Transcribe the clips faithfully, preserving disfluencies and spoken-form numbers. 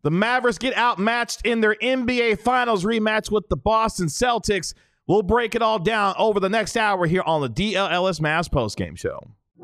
The Mavericks get outmatched in their N B A Finals rematch with the Boston Celtics. We'll break it all down over the next hour here on the D L L S Mavs postgame show.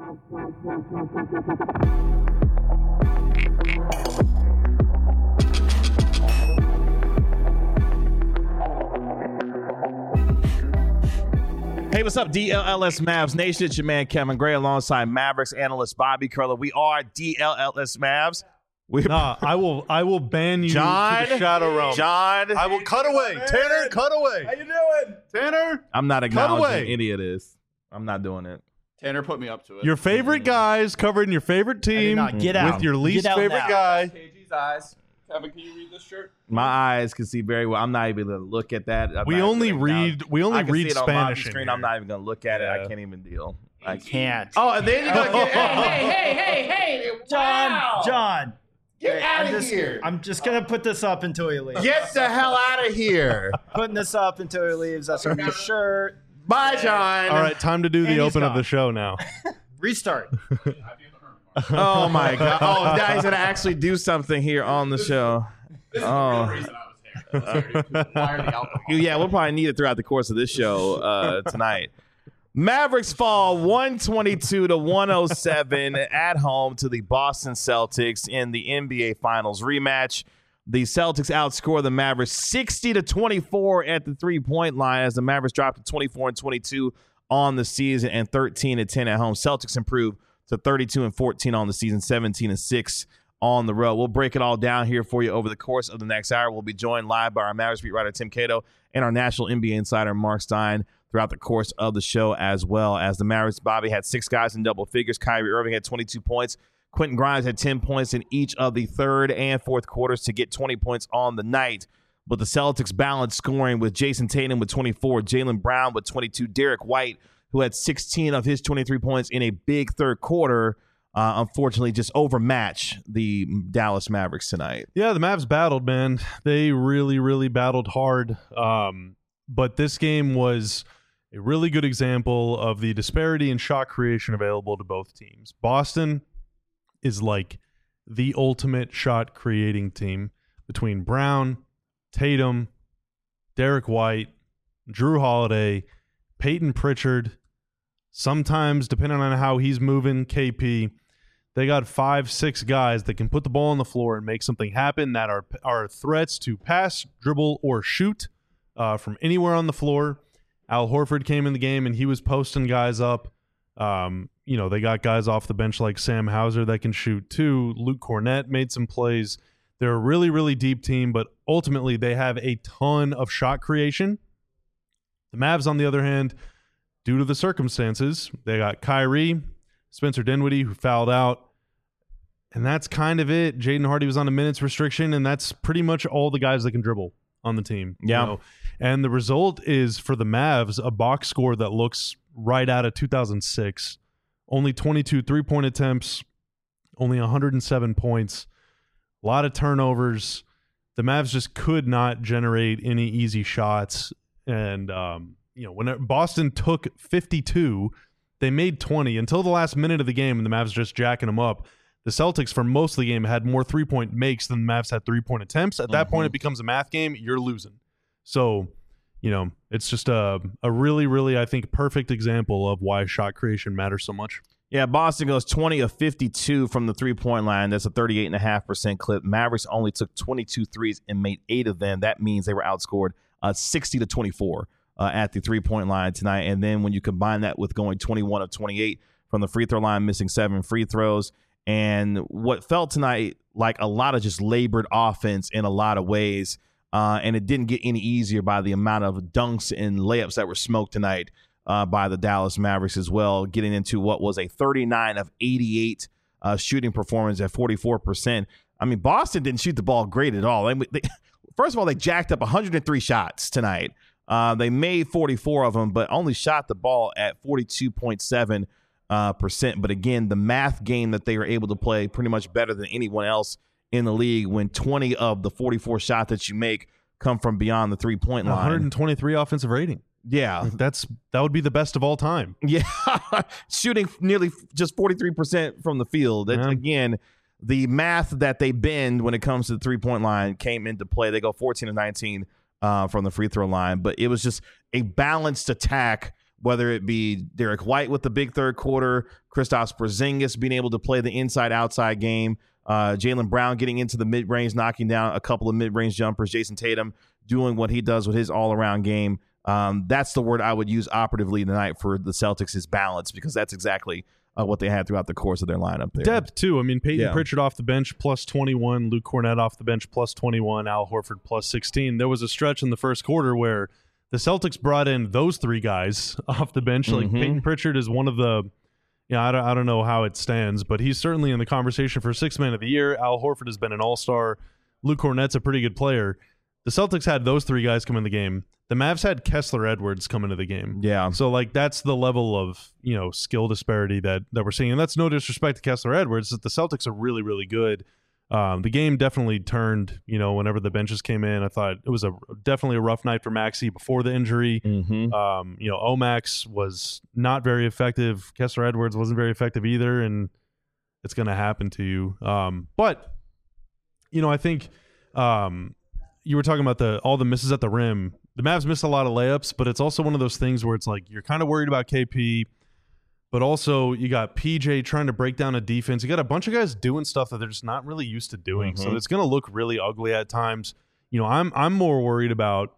Hey, what's up, D L L S Mavs Nation? It's your man, Kevin Gray, alongside Mavericks analyst Bobby Curler. We are D L L S Mavs. We nah, I will I will ban you John, to the shadow realm. John. I will cut away. Tanner, cut away. How you doing? Tanner. I'm not acknowledging away. any of this. I'm not doing it. Tanner put me up to it. Your favorite guys covering your favorite team not. Get out. with your least Get out favorite now. guy. K G's eyes. Kevin, can you read this shirt? My eyes can see very well. I'm not even going to look at that. I'm We not only even gonna read acknowledge- we only I can read see it on Spanish my in screen. here. I'm not even going to look at it. Yeah. I can't even deal. I can't. Oh, and then you're going to get hey, hey, hey, hey, hey. John, Wow. John. Get I'm out of just, here. I'm just going to put this up until he leaves. Get the hell out of here. Putting this up until he leaves. That's a new shirt. Bye, John. All right, time to do the And he's open of gone. the show now. Restart. Oh, my God. Oh, now he's going to actually do something here on the show. This is Oh. the real reason I was here. I was here to acquire the alcohol. Yeah, we'll probably need it throughout the course of this show uh, tonight. Mavericks fall one twenty-two to one oh seven at home to the Boston Celtics in the N B A Finals rematch. The Celtics outscore the Mavericks sixty to twenty-four at the three-point line as the Mavericks dropped to twenty-four and twenty-two on the season and thirteen and ten at home. Celtics improve to thirty-two and fourteen on the season, seventeen and six on the road. We'll break it all down here for you over the course of the next hour. We'll be joined live by our Mavericks beat writer Tim Cato and our national N B A insider Mark Stein throughout the course of the show, as well as the Mavericks. Bobby had six guys in double figures. Kyrie Irving had twenty-two points. Quentin Grimes had ten points in each of the third and fourth quarters to get twenty points on the night. But the Celtics balanced scoring with Jason Tatum with twenty-four, Jaylen Brown with twenty-two, Derek White, who had sixteen of his twenty-three points in a big third quarter, uh, unfortunately just overmatch the Dallas Mavericks tonight. Yeah, the Mavs battled, man. They really, really battled hard. Um, but this game was a really good example of the disparity in shot creation available to both teams. Boston is like the ultimate shot creating team between Brown, Tatum, Derek White, Drew Holiday, Peyton Pritchard, sometimes, depending on how he's moving, K P. They got five, six guys that can put the ball on the floor and make something happen that are, are threats to pass, dribble, or shoot uh, from anywhere on the floor. Al Horford came in the game, and he was posting guys up. Um, you know, they got guys off the bench like Sam Hauser that can shoot too. Luke Cornett made some plays. They're a really, really deep team, but ultimately they have a ton of shot creation. The Mavs, on the other hand, due to the circumstances, they got Kyrie, Spencer Dinwiddie, who fouled out, and that's kind of it. Jaden Hardy was on a minutes restriction, and that's pretty much all the guys that can dribble on the team. Yeah. You know? And the result is, for the Mavs, a box score that looks right out of two thousand six. Only twenty-two three-point attempts, only one hundred seven points, a lot of turnovers. The Mavs just could not generate any easy shots. And, um, you know, when Boston took fifty-two, they made twenty until the last minute of the game, and the Mavs just jacking them up. The Celtics, for most of the game, had more three-point makes than the Mavs had three-point attempts. At that Mm-hmm. point, it becomes a math game. You're losing. So, you know, it's just a, a really, really, I think, perfect example of why shot creation matters so much. Yeah, Boston goes twenty of fifty-two from the three-point line. That's a thirty-eight point five percent clip. Mavericks only took twenty-two threes and made eight of them. That means they were outscored uh, sixty to twenty-four uh, at the three-point line tonight. And then when you combine that with going twenty-one of twenty-eight from the free throw line, missing seven free throws, and what felt tonight like a lot of just labored offense in a lot of ways, uh, and it didn't get any easier by the amount of dunks and layups that were smoked tonight uh, by the Dallas Mavericks as well, getting into what was a thirty-nine of eighty-eight uh, shooting performance at forty-four percent. I mean, Boston didn't shoot the ball great at all. They, they, first of all, they jacked up one hundred three shots tonight. Uh, they made forty-four of them, but only shot the ball at forty-two point seven uh, percent. But again, the math game that they were able to play pretty much better than anyone else in the league when twenty of the forty-four shots that you make come from beyond the three-point line. one hundred twenty-three offensive rating. Yeah. Like that's that would be the best of all time. Yeah. Shooting nearly just forty-three percent from the field. That, Yeah. Again, the math that they bend when it comes to the three-point line came into play. They go fourteen of nineteen uh, from the free throw line, but it was just a balanced attack, whether it be Derek White with the big third quarter, Kristaps Porzingis being able to play the inside-outside game, uh, Jaylen Brown getting into the mid-range, knocking down a couple of mid-range jumpers, Jason Tatum doing what he does with his all-around game. Um, that's the word I would use operatively tonight for the Celtics is balance, because that's exactly uh, what they had throughout the course of their lineup there. Depth, too. I mean, Peyton Yeah. Pritchard off the bench, plus twenty-one. Luke Cornett off the bench, plus twenty-one. Al Horford, plus sixteen. There was a stretch in the first quarter where the Celtics brought in those three guys off the bench. Like, Mhm. Peyton Pritchard is one of the, you know, I don't, I don't know how it stands, but he's certainly in the conversation for sixth man of the year. Al Horford has been an all-star. Luke Cornett's a pretty good player. The Celtics had those three guys come in the game. The Mavs had Kessler Edwards come into the game. Yeah. So, like, that's the level of, you know, skill disparity that, that we're seeing. And that's no disrespect to Kessler Edwards. That the Celtics are really, really good. Um, the game definitely turned, you know, whenever the benches came in. I thought it was a definitely a rough night for Maxey before the injury. Mm-hmm. Um, you know, Omax was not very effective. Kessler Edwards wasn't very effective either, and it's going to happen to you. Um, but, you know, I think um, you were talking about the all the misses at the rim. The Mavs missed a lot of layups, but it's also one of those things where it's like you're kind of worried about K P, but also you got P J trying to break down a defense. You got a bunch of guys doing stuff that they're just not really used to doing. So Mhm. it's going to look really ugly at times. You know, I'm I'm more worried about,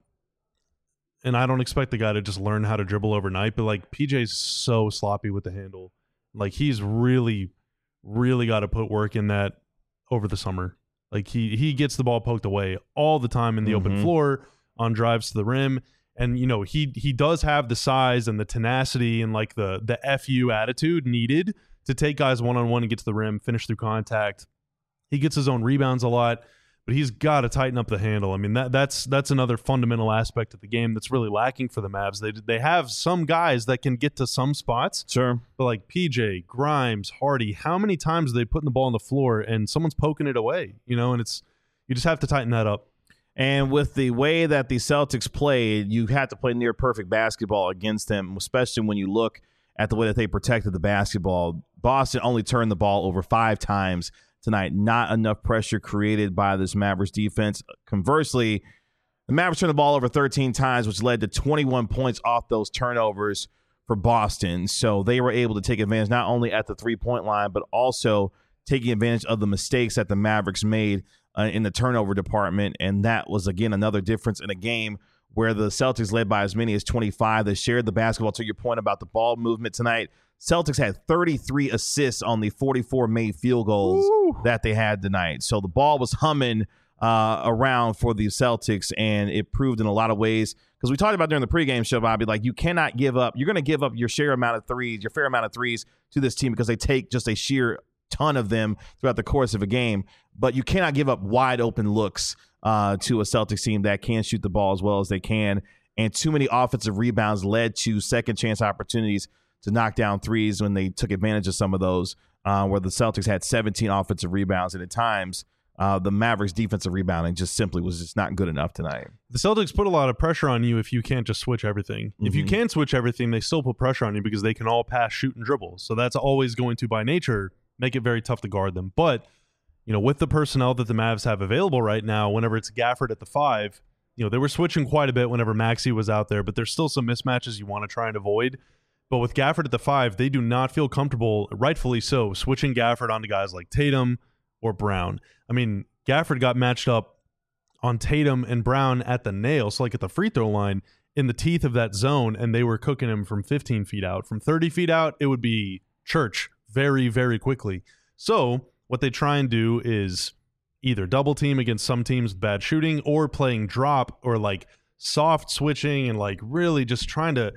and I don't expect the guy to just learn how to dribble overnight, but like P J's so sloppy with the handle. Like he's really, really got to put work in that over the summer. Like he he gets the ball poked away all the time in the open Mhm. floor on drives to the rim. And, you know, he he does have the size and the tenacity and like the the F U attitude needed to take guys one-on-one and get to the rim, finish through contact. He gets his own rebounds a lot, but he's got to tighten up the handle. I mean, that that's that's another fundamental aspect of the game that's really lacking for the Mavs. They they have some guys that can get to some spots, Sure. but like P J, Grimes, Hardy, how many times are they putting the ball on the floor and someone's poking it away, you know, and it's you just have to tighten that up. And with the way that the Celtics played, you had to play near perfect basketball against them, especially when you look at the way that they protected the basketball. Boston only turned the ball over five times tonight. Not enough pressure created by this Mavericks defense. Conversely, the Mavericks turned the ball over thirteen times, which led to twenty-one points off those turnovers for Boston. So they were able to take advantage not only at the three-point line, but also taking advantage of the mistakes that the Mavericks made uh, in the turnover department. And that was, again, another difference in a game where the Celtics led by as many as twenty-five. They shared the basketball. To your point about the ball movement tonight, Celtics had thirty-three assists on the forty-four made field goals Ooh. that they had tonight. So the ball was humming uh, around for the Celtics, and it proved in a lot of ways. Because we talked about during the pregame show, Bobby, like you cannot give up. You're going to give up your share amount of threes, your fair amount of threes to this team because they take just a sheer ton of them throughout the course of a game. But you cannot give up wide open looks uh, to a Celtics team that can shoot the ball as well as they can. And too many offensive rebounds led to second chance opportunities to knock down threes when they took advantage of some of those, uh, where the Celtics had seventeen offensive rebounds. And at times, uh, the Mavericks defensive rebounding just simply was just not good enough tonight. The Celtics put a lot of pressure on you if you can't just switch everything. If you Mhm. can switch everything, they still put pressure on you because they can all pass, shoot, and dribble. So that's always going to, by nature, make it very tough to guard them. But, you know, with the personnel that the Mavs have available right now, whenever it's Gafford at the five, you know, they were switching quite a bit whenever Maxey was out there, but there's still some mismatches you want to try and avoid. But with Gafford at the five, they do not feel comfortable, rightfully so, switching Gafford onto guys like Tatum or Brown. I mean, Gafford got matched up on Tatum and Brown at the nail, so like at the free throw line, in the teeth of that zone, and they were cooking him from fifteen feet out. From thirty feet out, it would be church very, very quickly. So what they try and do is either double team against some teams with bad shooting or playing drop or like soft switching and like really just trying to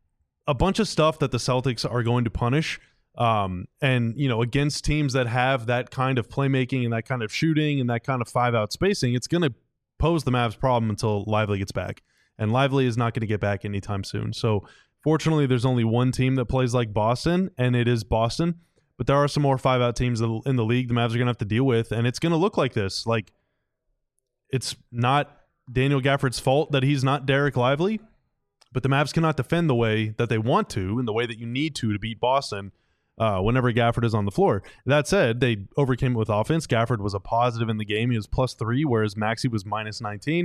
a bunch of stuff that the Celtics are going to punish. Um, and, you know, against teams that have that kind of playmaking and that kind of shooting and that kind of five out spacing, it's going to pose the Mavs problem until Lively gets back. And Lively is not going to get back anytime soon. So fortunately, there's only one team that plays like Boston, and it is Boston. But there are some more five out teams in the league the Mavs are going to have to deal with, and it's going to look like this. Like, it's not Daniel Gafford's fault that he's not Derek Lively, but the Mavs cannot defend the way that they want to and the way that you need to to beat Boston. uh, whenever Gafford is on the floor. That said, they overcame it with offense. Gafford was a positive in the game. He was plus three, whereas Maxey was minus nineteen.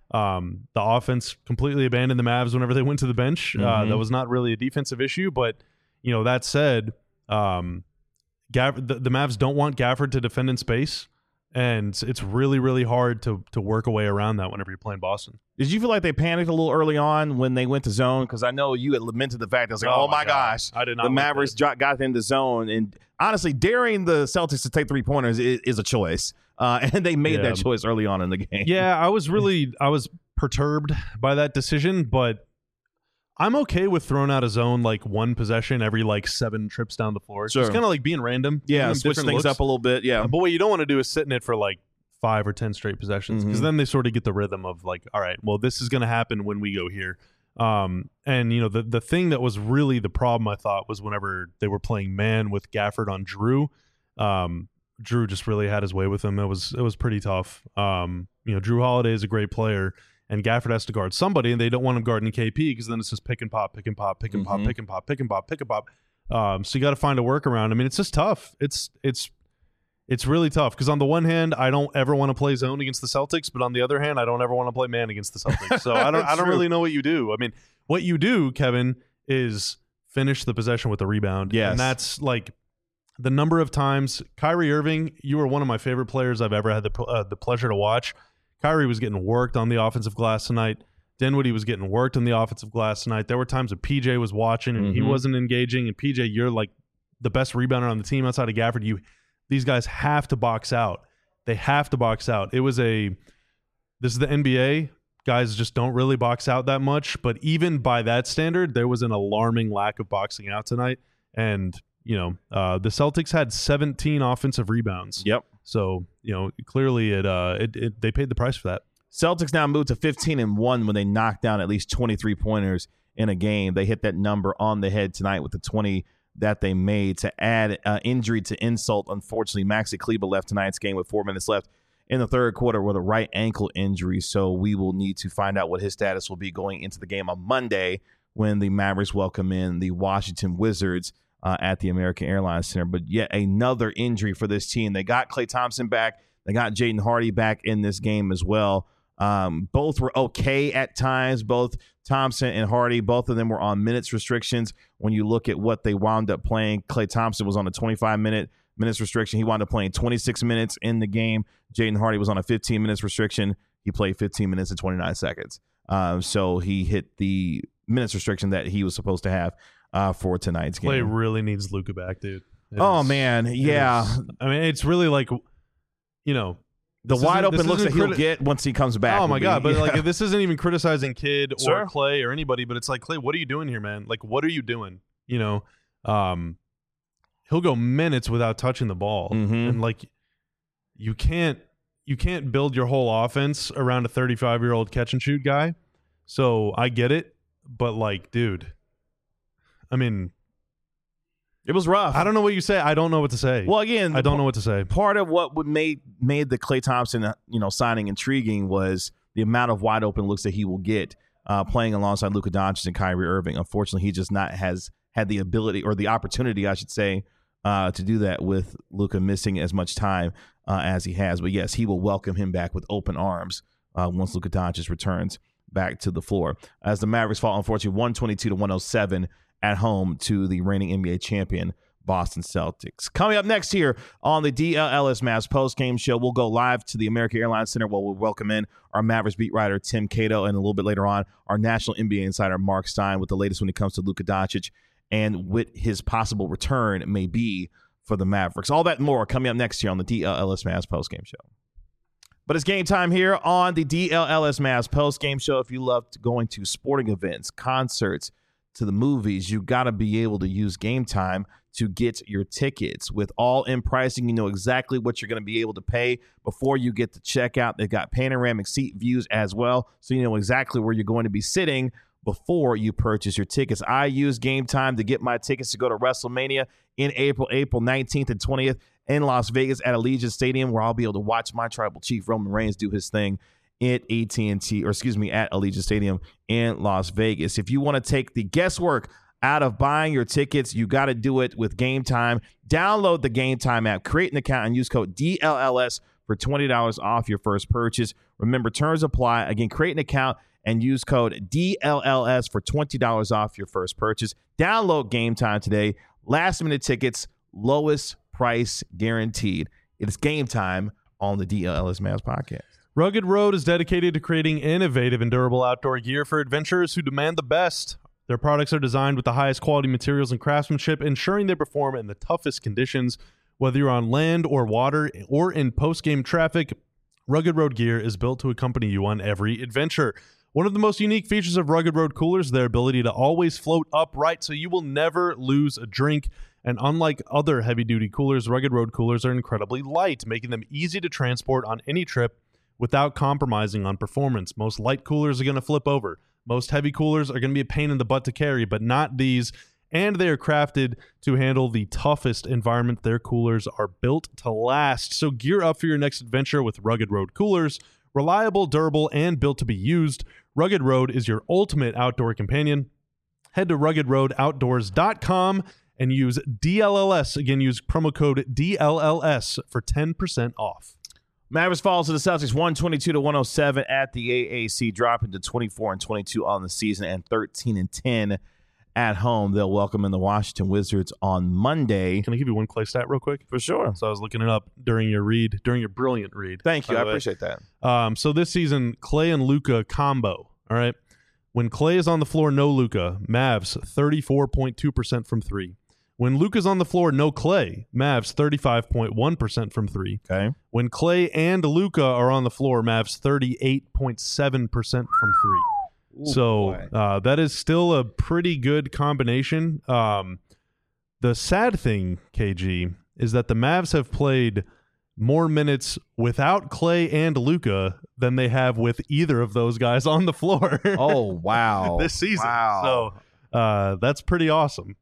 Um, the offense completely abandoned the Mavs whenever they went to the bench. Mm-hmm. Uh, that was not really a defensive issue, but you know, that said, um, Gaff- the, the Mavs don't want Gafford to defend in space, and it's really, really hard to to work a way around that whenever you're playing Boston. Did you feel like they panicked a little early on when they went to zone? Because I know you had lamented the fact that it's like, oh, Oh, my my God. gosh, I did not the like Mavericks that. dro- got into zone. And honestly, daring the Celtics to take three pointers is, is a choice, uh, and they made Yeah. that choice early on in the game. Yeah, I was really I was perturbed by that decision, but I'm okay with throwing out a zone like one possession every like seven trips down the floor. So Sure. it's kind of like being random. yeah, giving them switch different things looks. up a little bit. Yeah, But what you don't want to do is sit in it for like five or ten straight possessions, because Mhm. then they sort of get the rhythm of like, all right, well, this is going to happen when we go here. Um, and you know, the the thing that was really the problem, I thought, was whenever they were playing man with Gafford on Drew. Um, Drew just really had his way with him. It was it was pretty tough. Um, you know, Drew Holiday is a great player, and Gafford has to guard somebody, and they don't want him guarding K P because then it's just pick and pop, pick and pop, pick and pop, Mhm. pick and pop, pick and pop, pick and pop. Um, so you got to find a workaround. I mean, it's just tough. It's it's it's really tough because on the one hand, I don't ever want to play zone against the Celtics, but on the other hand, I don't ever want to play man against the Celtics. So I don't I don't True. really know what you do. I mean, what you do, Kevin, is finish the possession with a rebound. Yes. And that's like the number of times Kyrie Irving, you were one of my favorite players I've ever had the uh, the pleasure to watch. Kyrie was getting worked on the offensive glass tonight. Dinwiddie was getting worked on the offensive glass tonight. There were times that P J was watching and he Mhm. wasn't engaging. And P J, you're like the best rebounder on the team outside of Gafford. You, these guys have to box out. They have to box out. It was a. This is the N B A. Guys just don't really box out that much. But even by that standard, there was an alarming lack of boxing out tonight. And you know, uh, the Celtics had seventeen offensive rebounds. Yep. So you know, clearly it, uh, it, it they paid the price for that. Celtics now moved to fifteen and one when they knocked down at least twenty-three pointers in a game. They hit that number on the head tonight with the twenty that they made. To add uh, injury to insult, unfortunately, Maxi Kleber left tonight's game with four minutes left in the third quarter with a right ankle injury. So we will need to find out what his status will be going into the game on Monday when the Mavericks welcome in the Washington Wizards uh, at the American Airlines Center. But yet another injury for this team. They got Klay Thompson back. They got Jaden Hardy back in this game as well. Um, both were okay at times. Both Thompson and Hardy, both of them were on minutes restrictions. When you look at what they wound up playing, Klay Thompson was on a twenty-five minute minutes restriction. He wound up playing twenty-six minutes in the game. Jaden Hardy was on a fifteen minutes restriction. He played fifteen minutes and twenty-nine seconds. Um, so he hit the minutes restriction that he was supposed to have uh, for tonight's game. Clay really needs Luka back, dude. It Oh, is- man. it Yeah. is- I mean, it's really like, you know, The this wide isn't- open this looks that isn't he'll criti- get once he comes back. Oh will my be- god! But yeah. like, this isn't even criticizing Kid or Sure. Clay or anybody, but it's like, Clay, what are you doing here, man? Like, what are you doing? You know, um, he'll go minutes without touching the ball, Mhm. and like, you can't you can't build your whole offense around a thirty-five year old catch and shoot guy. So I get it, but like, dude, I mean, it was rough. I don't know what you say. I don't know what to say. Well, again, I don't know what to say. part of what would made made the Klay Thompson, uh, you know, signing intriguing was the amount of wide open looks that he will get uh, playing alongside Luka Doncic and Kyrie Irving. Unfortunately, he just not has had the ability or the opportunity, I should say, uh, to do that with Luka missing as much time uh, as he has. But yes, he will welcome him back with open arms uh, once Luka Doncic returns back to the floor. As the Mavericks fall, unfortunately, one twenty-two to one oh seven at home to the reigning N B A champion Boston Celtics. Coming up next here on the D L L S Mavs post-game show, we'll go live to the American Airlines Center where we'll welcome in our Mavericks beat writer Tim Cato, and a little bit later on, our national N B A insider Mark Stein with the latest when it comes to Luka Doncic and what his possible return may be for the Mavericks. All that and more coming up next here on the D L L S Mavs post-game show. But it's game time here on the D L L S Mavs post-game show. If you love going to sporting events, concerts, to the movies, you got to be able to use Game Time to get your tickets. With all-in pricing, you know exactly what you're going to be able to pay before you get to checkout. They've got panoramic seat views as well, so you know exactly where you're going to be sitting before you purchase your tickets. I use Game Time to get my tickets to go to WrestleMania in April, April nineteenth and twentieth in Las Vegas at Allegiant Stadium, where I'll be able to watch my tribal chief Roman Reigns do his thing at A T and T, or excuse me, at Allegiant Stadium in Las Vegas. If you want to take the guesswork out of buying your tickets, you got to do it with Game Time. Download the Game Time app, create an account, and use code D L L S for twenty dollars off your first purchase. Remember, terms apply. Again, create an account and use code D L L S for twenty dollars off your first purchase. Download Game Time today. Last minute tickets, lowest price guaranteed. It's Game Time on the D L L S Mavs podcast. Rugged Road is dedicated to creating innovative and durable outdoor gear for adventurers who demand the best. Their products are designed with the highest quality materials and craftsmanship, ensuring they perform in the toughest conditions. Whether you're on land or water or in post-game traffic, Rugged Road gear is built to accompany you on every adventure. One of the most unique features of Rugged Road coolers is their ability to always float upright, so you will never lose a drink. And unlike other heavy-duty coolers, Rugged Road coolers are incredibly light, making them easy to transport on any trip without compromising on performance. Most light coolers are going to flip over. Most heavy coolers are going to be a pain in the butt to carry, but not these. And they are crafted to handle the toughest environment. Their coolers are built to last. So gear up for your next adventure with Rugged Road coolers. Reliable, durable, and built to be used. Rugged Road is your ultimate outdoor companion. Head to rugged road outdoors dot com and use D L L S. Again, use promo code D L L S for ten percent off. Mavericks falls to the Celtics one twenty-two to one oh seven at the A A C, dropping to twenty-four and twenty-two on the season and thirteen and ten at home. They'll welcome in the Washington Wizards on Monday. Can I give you one Clay stat real quick? For sure. So I was looking it up during your read, during your brilliant read. Thank you. I by the way. appreciate that. Um, so this season, Clay and Luka combo. All right. When Clay is on the floor, no Luka, Mavs thirty-four point two percent from three. When Luka's on the floor, no Clay, Mavs thirty-five point one percent from three. Okay. When Clay and Luka are on the floor, Mavs thirty-eight point seven percent from three. Ooh, so boy. uh, that is still a pretty good combination. Um, the sad thing, K G, is that the Mavs have played more minutes without Clay and Luka than they have with either of those guys on the floor. Oh, wow. this season. Wow. So uh, that's pretty awesome.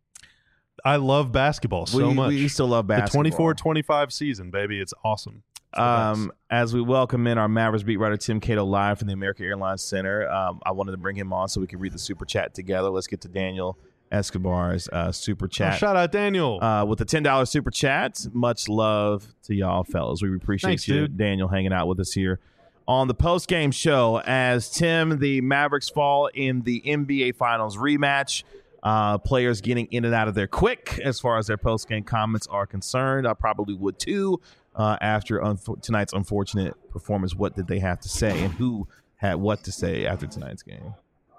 I love basketball so we, much. We still love basketball. The twenty-four twenty-five season, baby. It's awesome. It's the Um, best. as we welcome in our Mavericks beat writer Tim Cato live from the American Airlines Center, um, I wanted to bring him on so we could read the super chat together. Let's get to Daniel Escobar's uh, super Oh, chat. shout out Daniel. Uh, with the ten dollars super chat. Much love to y'all, fellas. We appreciate Thanks, you, dude. Daniel, hanging out with us here on the post-game show as Tim, the Mavericks fall in the N B A Finals rematch. Uh, players getting in and out of there quick as far as their post-game comments are concerned. I probably would too uh, after unfo- tonight's unfortunate performance. What did they have to say, and who had what to say after tonight's game?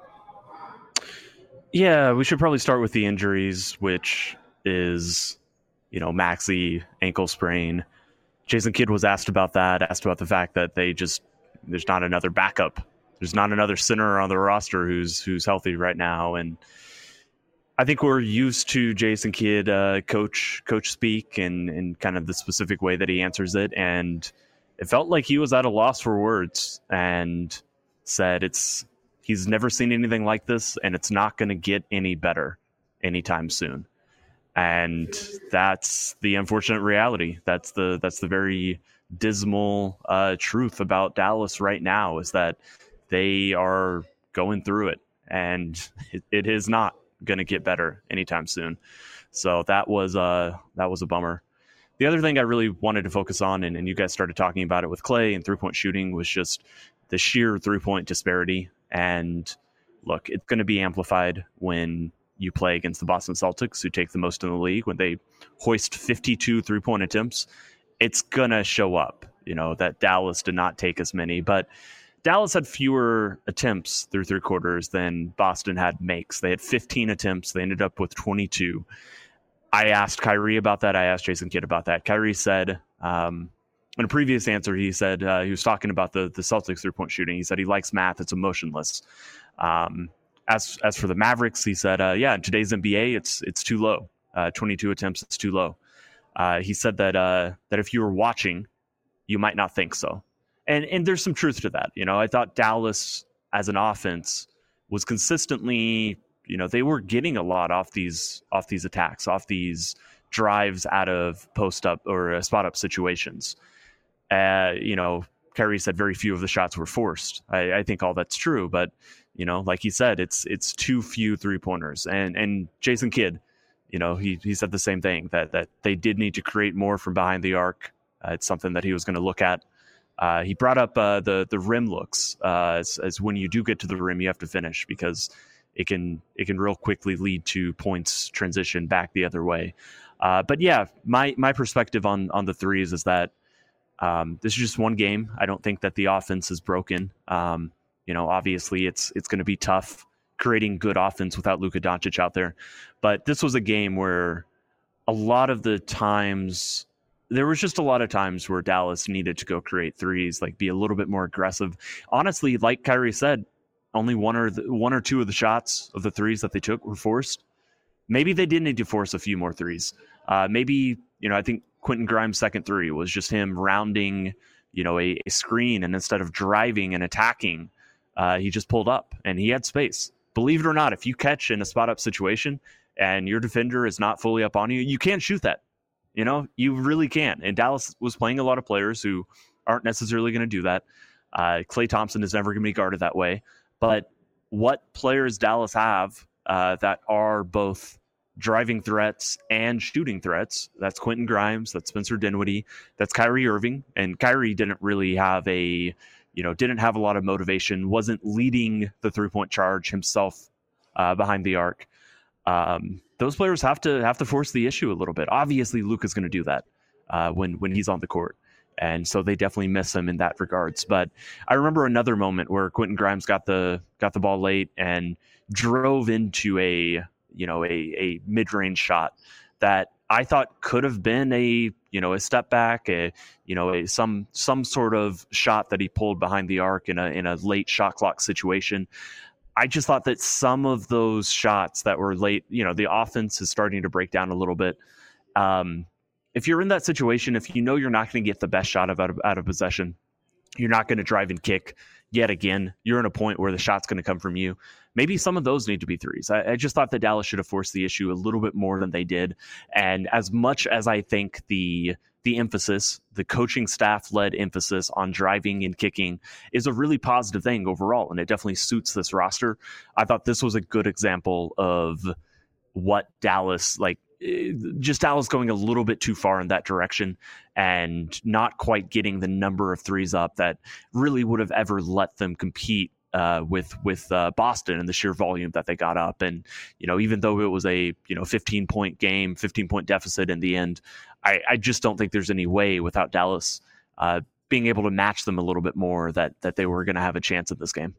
Yeah, we should probably start with the injuries, which is, you know, Maxey ankle sprain. Jason Kidd was asked about that, asked about the fact that they just, there's not another backup. There's not another center on the roster who's who's healthy right now. And I think we're used to Jason Kidd uh, coach coach speak and, and kind of the specific way that he answers it. And it felt like he was at a loss for words and said it's he's never seen anything like this, and it's not going to get any better anytime soon. And that's the unfortunate reality. That's the that's the very dismal uh, truth about Dallas right now, is that they are going through it, and it, it is not going to get better anytime soon. So that was uh that was a bummer. The other thing I really wanted to focus on, and, and you guys started talking about it with Clay and three-point shooting, was just the sheer three-point disparity. And look, it's going to be amplified when you play against the Boston Celtics, who take the most in the league. When they hoist fifty-two three-point attempts, it's going to show up, you know, that Dallas did not take as many. But Dallas had fewer attempts through three quarters than Boston had makes. They had fifteen attempts. They ended up with twenty-two. I asked Kyrie about that. I asked Jason Kidd about that. Kyrie said, um, in a previous answer, he said uh, he was talking about the, the Celtics three-point shooting. He said he likes math. It's emotionless. Um, as as for the Mavericks, he said, uh, yeah, in today's N B A, it's it's too low. Uh, twenty-two attempts, it's too low. Uh, he said that uh, that if you were watching, you might not think so. And and there's some truth to that. You know, I thought Dallas as an offense was consistently, you know, they were getting a lot off these off these attacks, off these drives out of post up or uh, spot up situations. Uh, you know, Kyrie said very few of the shots were forced. I, I think all that's true, but you know, like he said, it's it's too few three pointers. And and Jason Kidd, you know, he he said the same thing, that that they did need to create more from behind the arc. Uh, it's something that he was going to look at. Uh, he brought up uh, the the rim looks uh, as, as when you do get to the rim, you have to finish, because it can it can real quickly lead to points transition back the other way. Uh, but yeah, my my perspective on on the threes is that um, this is just one game. I don't think that the offense is broken. Um, you know, obviously it's it's going to be tough creating good offense without Luka Doncic out there. But this was a game where a lot of the times, there was just a lot of times where Dallas needed to go create threes, like be a little bit more aggressive. Honestly, like Kyrie said, only one or the, one or two of the shots of the threes that they took were forced. Maybe they did need to force a few more threes. Uh, maybe, you know, I think Quentin Grimes' second three was just him rounding, you know, a, a screen, and instead of driving and attacking, uh, he just pulled up and he had space. Believe it or not, if you catch in a spot up situation and your defender is not fully up on you, you can't shoot that. You know, you really can. And Dallas was playing a lot of players who aren't necessarily going to do that. Uh, Klay Thompson is never going to be guarded that way. But what players Dallas have uh, that are both driving threats and shooting threats? That's Quentin Grimes, that's Spencer Dinwiddie, that's Kyrie Irving. And Kyrie didn't really have a, you know, didn't have a lot of motivation, wasn't leading the three-point charge himself uh, behind the arc. Um, those players have to have to force the issue a little bit. Obviously, Luka's going to do that uh, when when he's on the court. And so they definitely miss him in that regards. But I remember another moment where Quentin Grimes got the got the ball late and drove into a, you know, a, a mid-range shot that I thought could have been a, you know, a step back, a, you know, a, some some sort of shot that he pulled behind the arc in a in a late shot clock situation. I just thought that some of those shots that were late, you know, the offense is starting to break down a little bit. Um, if you're in that situation, if you know you're not going to get the best shot of out, of out of possession, you're not going to drive and kick yet again, you're in a point where the shot's going to come from you. Maybe some of those need to be threes. I, I just thought that Dallas should have forced the issue a little bit more than they did. And as much as I think the the emphasis, the coaching staff-led emphasis on driving and kicking is a really positive thing overall, and it definitely suits this roster, I thought this was a good example of what Dallas, like, just Dallas going a little bit too far in that direction and not quite getting the number of threes up that really would have ever let them compete uh, with with uh, Boston and the sheer volume that they got up. And, you know, even though it was a, you know, fifteen point game, fifteen point deficit in the end, I, I just don't think there's any way without Dallas uh, being able to match them a little bit more that that they were going to have a chance at this game.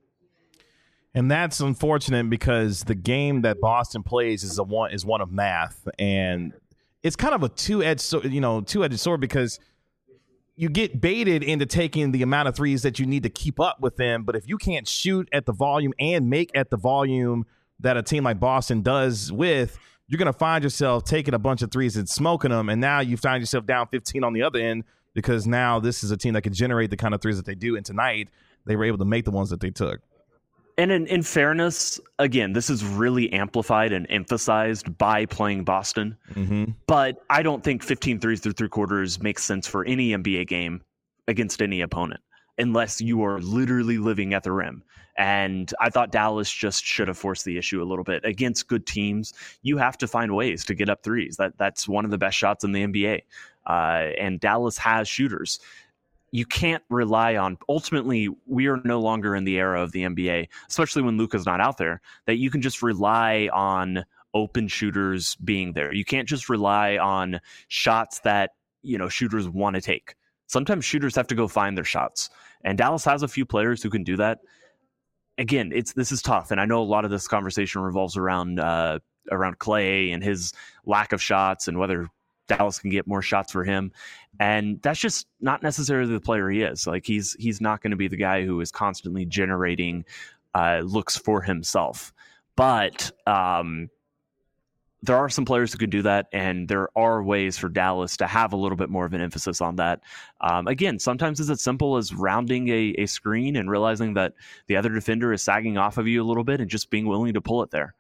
And that's unfortunate because the game that Boston plays is a one is one of math, and it's kind of a two-edged, you know, two-edged sword, because you get baited into taking the amount of threes that you need to keep up with them. But if you can't shoot at the volume and make at the volume that a team like Boston does with, you're going to find yourself taking a bunch of threes and smoking them. And now you find yourself down fifteen on the other end, because now this is a team that can generate the kind of threes that they do. And tonight they were able to make the ones that they took. And in, in fairness, again, this is really amplified and emphasized by playing Boston. Mm-hmm. But I don't think fifteen threes through three quarters makes sense for any N B A game against any opponent, unless you are literally living at the rim. And I thought Dallas just should have forced the issue a little bit. Against good teams, you have to find ways to get up threes. That That's one of the best shots in the N B A. Uh, and Dallas has shooters. You can't rely on, ultimately, we are no longer in the era of the N B A, especially when Luka's not out there, that you can just rely on open shooters being there. You can't just rely on shots that, you know, shooters want to take. Sometimes shooters have to go find their shots. And Dallas has a few players who can do that. Again, it's this is tough. And I know a lot of this conversation revolves around uh, around Klay and his lack of shots and whether Dallas can get more shots for him. And that's just not necessarily the player he is. Like he's he's not going to be the guy who is constantly generating uh, looks for himself. But um, there are some players who can do that, and there are ways for Dallas to have a little bit more of an emphasis on that. Um, again, sometimes it's as simple as rounding a, a screen and realizing that the other defender is sagging off of you a little bit and just being willing to pull it there.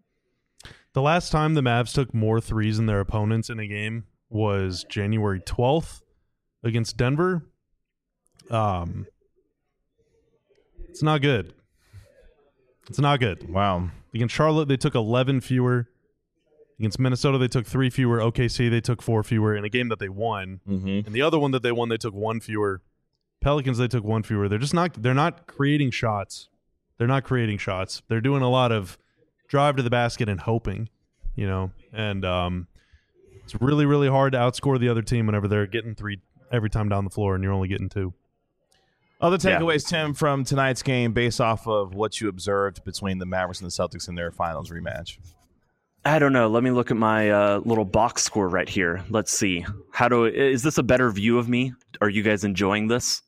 The last time the Mavs took more threes than their opponents in a game was January twelfth against Denver. Um, it's not good. It's not good. Wow. Against Charlotte, they took eleven fewer. Against Minnesota, they took three fewer. O K C, they took four fewer in a game that they won. Mm-hmm. And the other one that they won, they took one fewer. Pelicans, they took one fewer. They're just not. They're not creating shots. They're not creating shots. They're doing a lot of drive to the basket and hoping, you know. And um, it's really, really hard to outscore the other team whenever they're getting three every time down the floor, and you're only getting two. Other takeaways, Tim, from tonight's game based off of what you observed between the Mavericks and the Celtics in their finals rematch. I don't know. Let me look at my uh, little box score right here. Let's see. How do is this a better view of me? Are you guys enjoying this?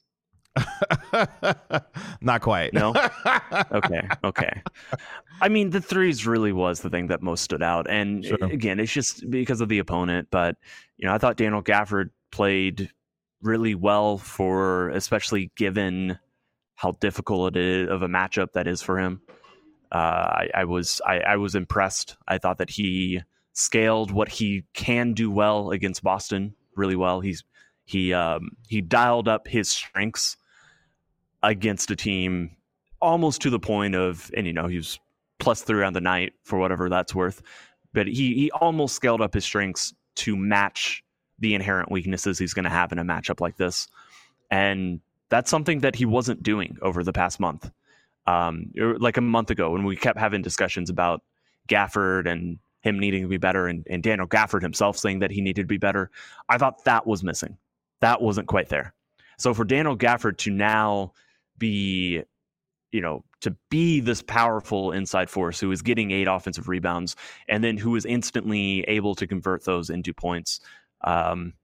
Not quite. No? Okay. Okay. I mean, the threes really was the thing that most stood out. And Sure. again, it's just because of the opponent. But, you know, I thought Daniel Gafford played really well for, especially given how difficult it is of a matchup that is for him. Uh, I, I was I, I was impressed. I thought that he scaled what he can do well against Boston really well. He's he um, he dialed up his strengths against a team almost to the point of, and you know, he was plus three on the night for whatever that's worth. But he he almost scaled up his strengths to match the inherent weaknesses he's going to have in a matchup like this, and that's something that he wasn't doing over the past month. Um, like a month ago when we kept having discussions about Gafford and him needing to be better and, and Daniel Gafford himself saying that he needed to be better. I thought that was missing. That wasn't quite there. So for Daniel Gafford to now be, you know, to be this powerful inside force who is getting eight offensive rebounds and then who is instantly able to convert those into points. Um,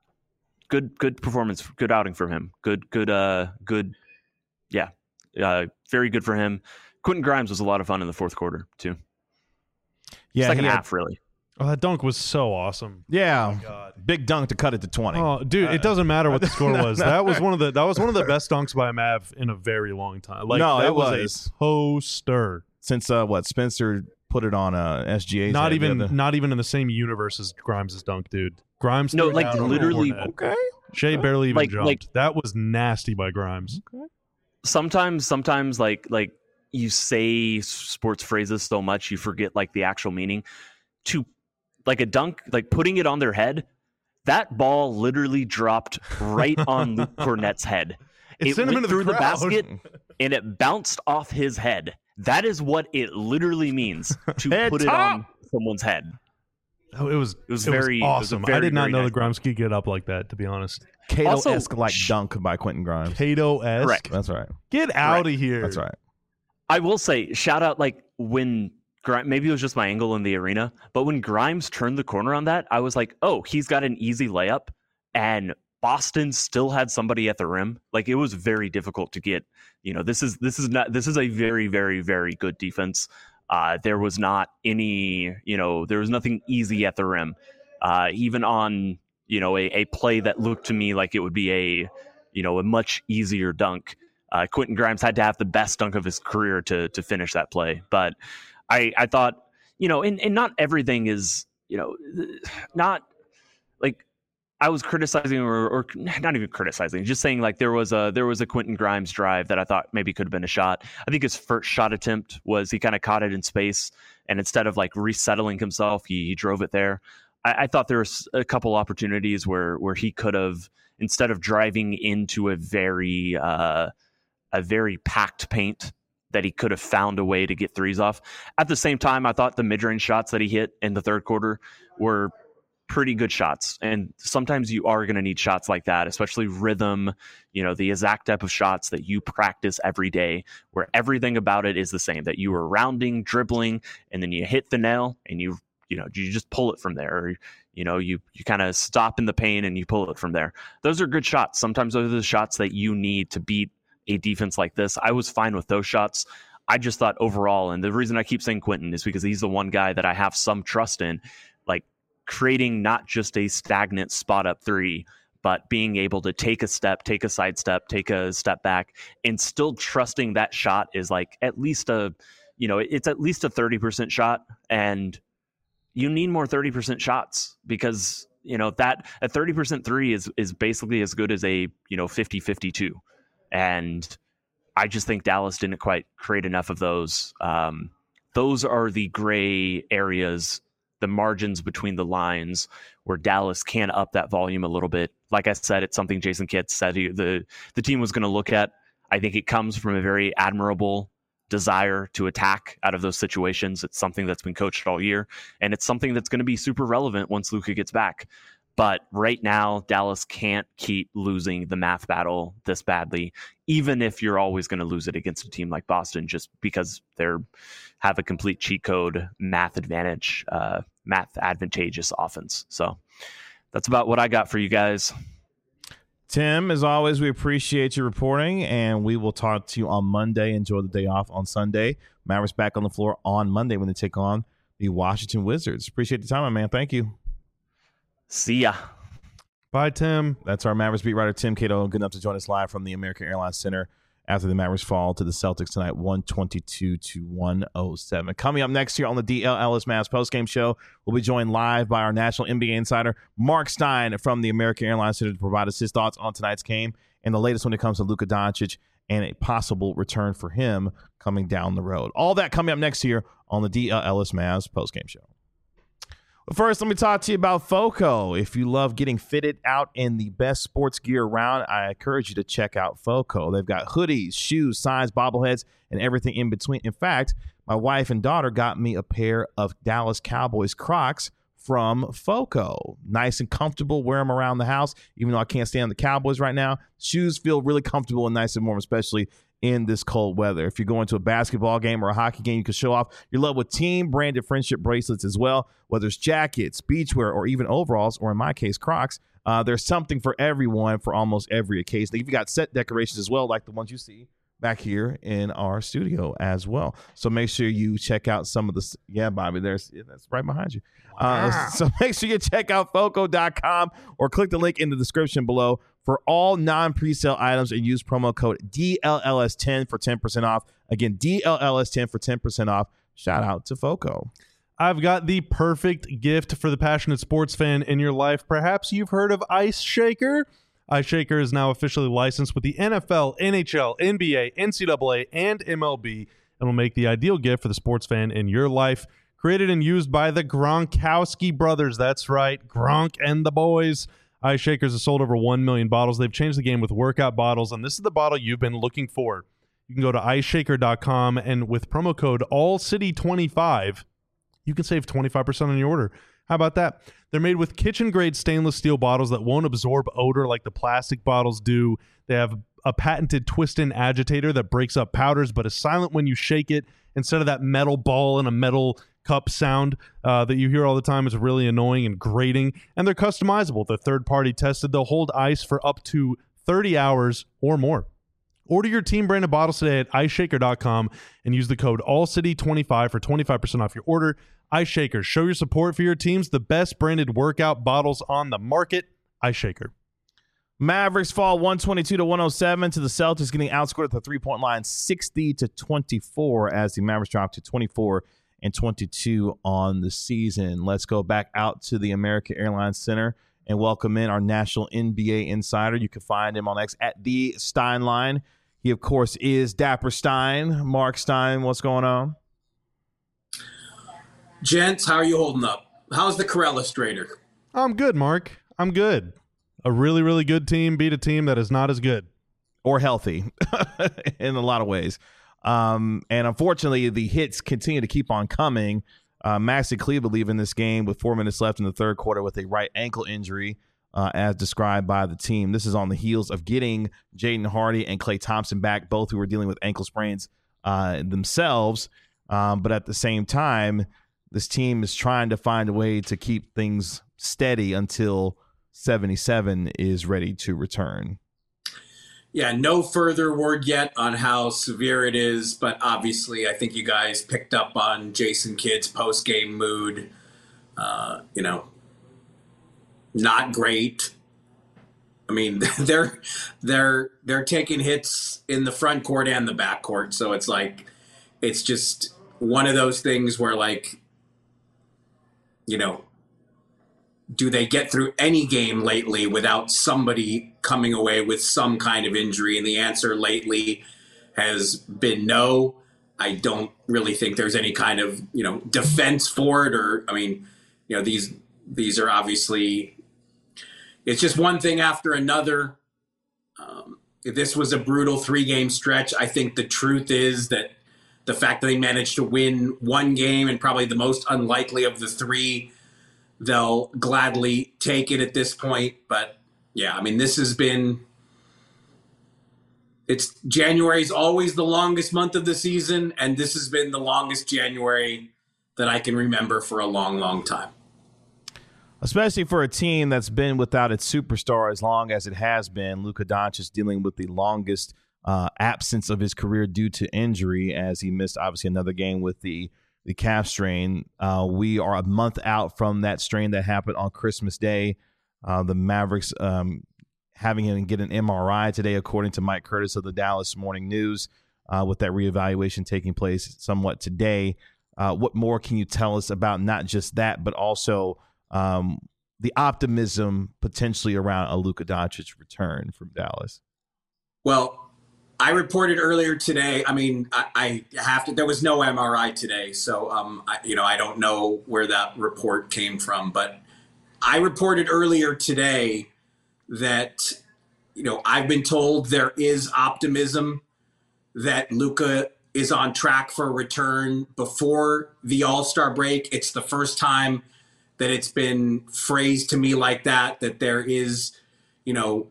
good, good performance, good outing from him. Good, good, uh, good. Yeah. Uh, very good for him. Quentin Grimes was a lot of fun in the fourth quarter too. Yeah, Second he had- half, really. Oh, that dunk was so awesome. Yeah, God. big dunk to cut it to twenty. Oh, dude, it doesn't matter what the score no, was. no. That was one of the that was one of the best dunks by a Mav in a very long time. Like No, that it was, was. a poster. Since uh, what Spencer put it on uh, S G A. Not even not even in the same universe as Grimes' dunk, dude. Grimes No, threw it like, down over literally- Fournette. Okay. Shea barely even Like- jumped. like- that was nasty by Grimes. Sometimes, sometimes like like you say sports phrases so much you forget like the actual meaning. To like a dunk, like putting it on their head, that ball literally dropped right on Luke Cornett's head. It It sent him went into the through the, crowd. basket and it bounced off his head. That is what it literally means to Head put it top. on someone's head. Oh, it was It was very- it was a awesome. I very, did not very know nice that Grimes could get up like that. To be honest, Cato-esque Also, like sh- dunk by Quentin Grimes. Cato-esque. Correct. That's right. Get out of here. That's right. I will say, shout out, like when Grimes, maybe it was just my angle in the arena, but when Grimes turned the corner on that, I was like, oh, he's got an easy layup, and Boston still had somebody at the rim. Like it was very difficult to get. You know, this is this is not this is a very very very good defense. Uh, there was not any, you know, there was nothing easy at the rim, uh, even on you know a, a play that looked to me like it would be a you know a much easier dunk. Uh, Quentin Grimes had to have the best dunk of his career to to finish that play. But I, I thought, you know, and, and not everything is, you know, not like I was criticizing or, or not even criticizing, just saying like there was a there was a Quentin Grimes drive that I thought maybe could have been a shot. I think his first shot attempt was he kind of caught it in space, and instead of like resettling himself, he, he drove it there. I, I thought there was a couple opportunities where where he could have, instead of driving into a very uh, a very packed paint, that he could have found a way to get threes off. At the same time, I thought the mid-range shots that he hit in the third quarter were pretty good shots. And sometimes you are going to need shots like that, especially rhythm, you know, the exact type of shots that you practice every day, where everything about it is the same, that you are rounding, dribbling, and then you hit the nail and you, you know, you just pull it from there. Or, you know, you, you kind of stop in the paint and you pull it from there. Those are good shots. Sometimes those are the shots that you need to beat a defense like this. I was fine with those shots. I just thought overall, and the reason I keep saying Quentin is because he's the one guy that I have some trust in, like creating not just a stagnant spot up three, but being able to take a step, take a side step, take a step back, and still trusting that shot is like at least a, you know, it's at least a thirty percent shot. And you need more thirty percent shots because, you know, that a thirty percent three is, is basically as good as a, you know, fifty fifty-two. And I just think Dallas didn't quite create enough of those. Um, those are the gray areas, the margins between the lines where Dallas can up that volume a little bit. Like I said, it's something Jason Kidd said he, the, the team was going to look at. I think it comes from a very admirable desire to attack out of those situations. It's something that's been coached all year, and it's something that's going to be super relevant once Luka gets back. But right now, Dallas can't keep losing the math battle this badly, even if you're always going to lose it against a team like Boston, just because they're have a complete cheat code math advantage, uh, math advantageous offense. So that's about what I got for you guys. Tim, as always, we appreciate your reporting, and we will talk to you on Monday. Enjoy the day off on Sunday. Mavericks back on the floor on Monday when they take on the Washington Wizards. Appreciate the time, my man. Thank you. See ya. Bye, Tim. That's our Mavericks beat writer, Tim Cato. Good enough to join us live from the American Airlines Center after the Mavericks fall to the Celtics tonight, one twenty-two to one oh seven. Coming up next here on the D L Ellis Mavs postgame show, we'll be joined live by our national N B A insider, Mark Stein from the American Airlines Center, to provide us his thoughts on tonight's game and the latest when it comes to Luka Doncic and a possible return for him coming down the road. All that coming up next here on the D L Ellis Mavs postgame show. But first, let me talk to you about FOCO. If you love getting fitted out in the best sports gear around, I encourage you to check out FOCO. They've got hoodies, shoes, signs, bobbleheads, and everything in between. In fact, my wife and daughter got me a pair of Dallas Cowboys Crocs from FOCO. Nice and comfortable. Wear them around the house, even though I can't stand the Cowboys right now. Shoes feel really comfortable and nice and warm, especially in this cold weather. If you're going to a basketball game or a hockey game, you can show off your love with team-branded friendship bracelets as well, whether it's jackets, beachwear, or even overalls, or in my case, Crocs. Uh, there's something for everyone for almost every occasion. You've got set decorations as well, like the ones you see back here in our studio as well. So make sure you check out some of the, yeah, Bobby, there's, yeah, that's right behind you. Wow. Uh, so make sure you check out foco dot com or click the link in the description below for all non-presale items and use promo code D L L S ten for ten percent off. Again, D L L S ten for ten percent off. Shout out to FOCO. I've got the perfect gift for the passionate sports fan in your life. Perhaps you've heard of Ice Shaker. Ice Shaker is now officially licensed with the N F L, N H L, N B A, N C double A, and M L B, and will make the ideal gift for the sports fan in your life. Created and used by the Gronkowski brothers. That's right, Gronk and the boys. Ice Shakers have sold over one million bottles. They've changed the game with workout bottles, and this is the bottle you've been looking for. You can go to ice shaker dot com, and with promo code all city twenty-five, you can save twenty-five percent on your order. How about that? They're made with kitchen-grade stainless steel bottles that won't absorb odor like the plastic bottles do. They have a patented twist-in agitator that breaks up powders but is silent when you shake it. Instead of that metal ball and a metal cup sound uh, that you hear all the time, is really annoying and grating. And they're customizable. They're third-party tested. They'll hold ice for up to thirty hours or more. Order your team-branded bottles today at ice shaker dot com and use the code all city twenty-five for twenty-five percent off your order. Ice Shaker, show your support for your teams. The best branded workout bottles on the market. Ice Shaker. Mavericks fall one twenty-two to one oh seven to the Celtics, getting outscored at the three-point line sixty to twenty-four as the Mavericks drop to twenty-four and twenty-two on the season. Let's go back out to the American Airlines Center and welcome in our national N B A insider. You can find him on X at the Steinline. He, of course, is Dapper Stein. Mark Stein, what's going on? Gents, how are you holding up? How's the Corella Strader? I'm good, Mark. I'm good. A really, really good team beat a team that is not as good. Or healthy in a lot of ways. Um, and unfortunately, the hits continue to keep on coming. Uh, Maxi Kleber leaving this game with four minutes left in the third quarter with a right ankle injury, uh, as described by the team. This is on the heels of getting Jaden Hardy and Klay Thompson back, both who were dealing with ankle sprains uh, themselves. Um, but at the same time, this team is trying to find a way to keep things steady until seventy-seven is ready to return. Yeah, no further word yet on how severe it is, but obviously I think you guys picked up on Jason Kidd's post-game mood. Uh, you know, not great. I mean, they're they're they're taking hits in the front court and the back court, so it's like it's just one of those things where, like, you know, do they get through any game lately without somebody coming away with some kind of injury? And the answer lately has been no. I don't really think there's any kind of, you know, defense for it. Or, I mean, you know, these these are obviously, it's just one thing after another. Um, this was a brutal three-game stretch. I think the truth is that the fact that they managed to win one game, and probably the most unlikely of the three, they'll gladly take it at this point. But yeah, I mean, this has been, it's January is always the longest month of the season, and this has been the longest January that I can remember for a long, long time. Especially for a team that's been without its superstar as long as it has been. Luka Doncic dealing with the longest uh, absence of his career due to injury, as he missed obviously another game with the the calf strain. Uh, we are a month out from that strain that happened on Christmas Day. Uh, the Mavericks um, having him get an M R I today, according to Mike Curtis of the Dallas Morning News, uh, with that reevaluation taking place somewhat today. Uh, what more can you tell us about not just that, but also um, the optimism potentially around a Luka Doncic return from Dallas? Well, I reported earlier today. I mean, I, I have to. There was no M R I today, so um, I, you know, I don't know where that report came from. But I reported earlier today that, you know, I've been told there is optimism that Luka is on track for a return before the All-Star break. It's the first time that it's been phrased to me like that, that there is, you know,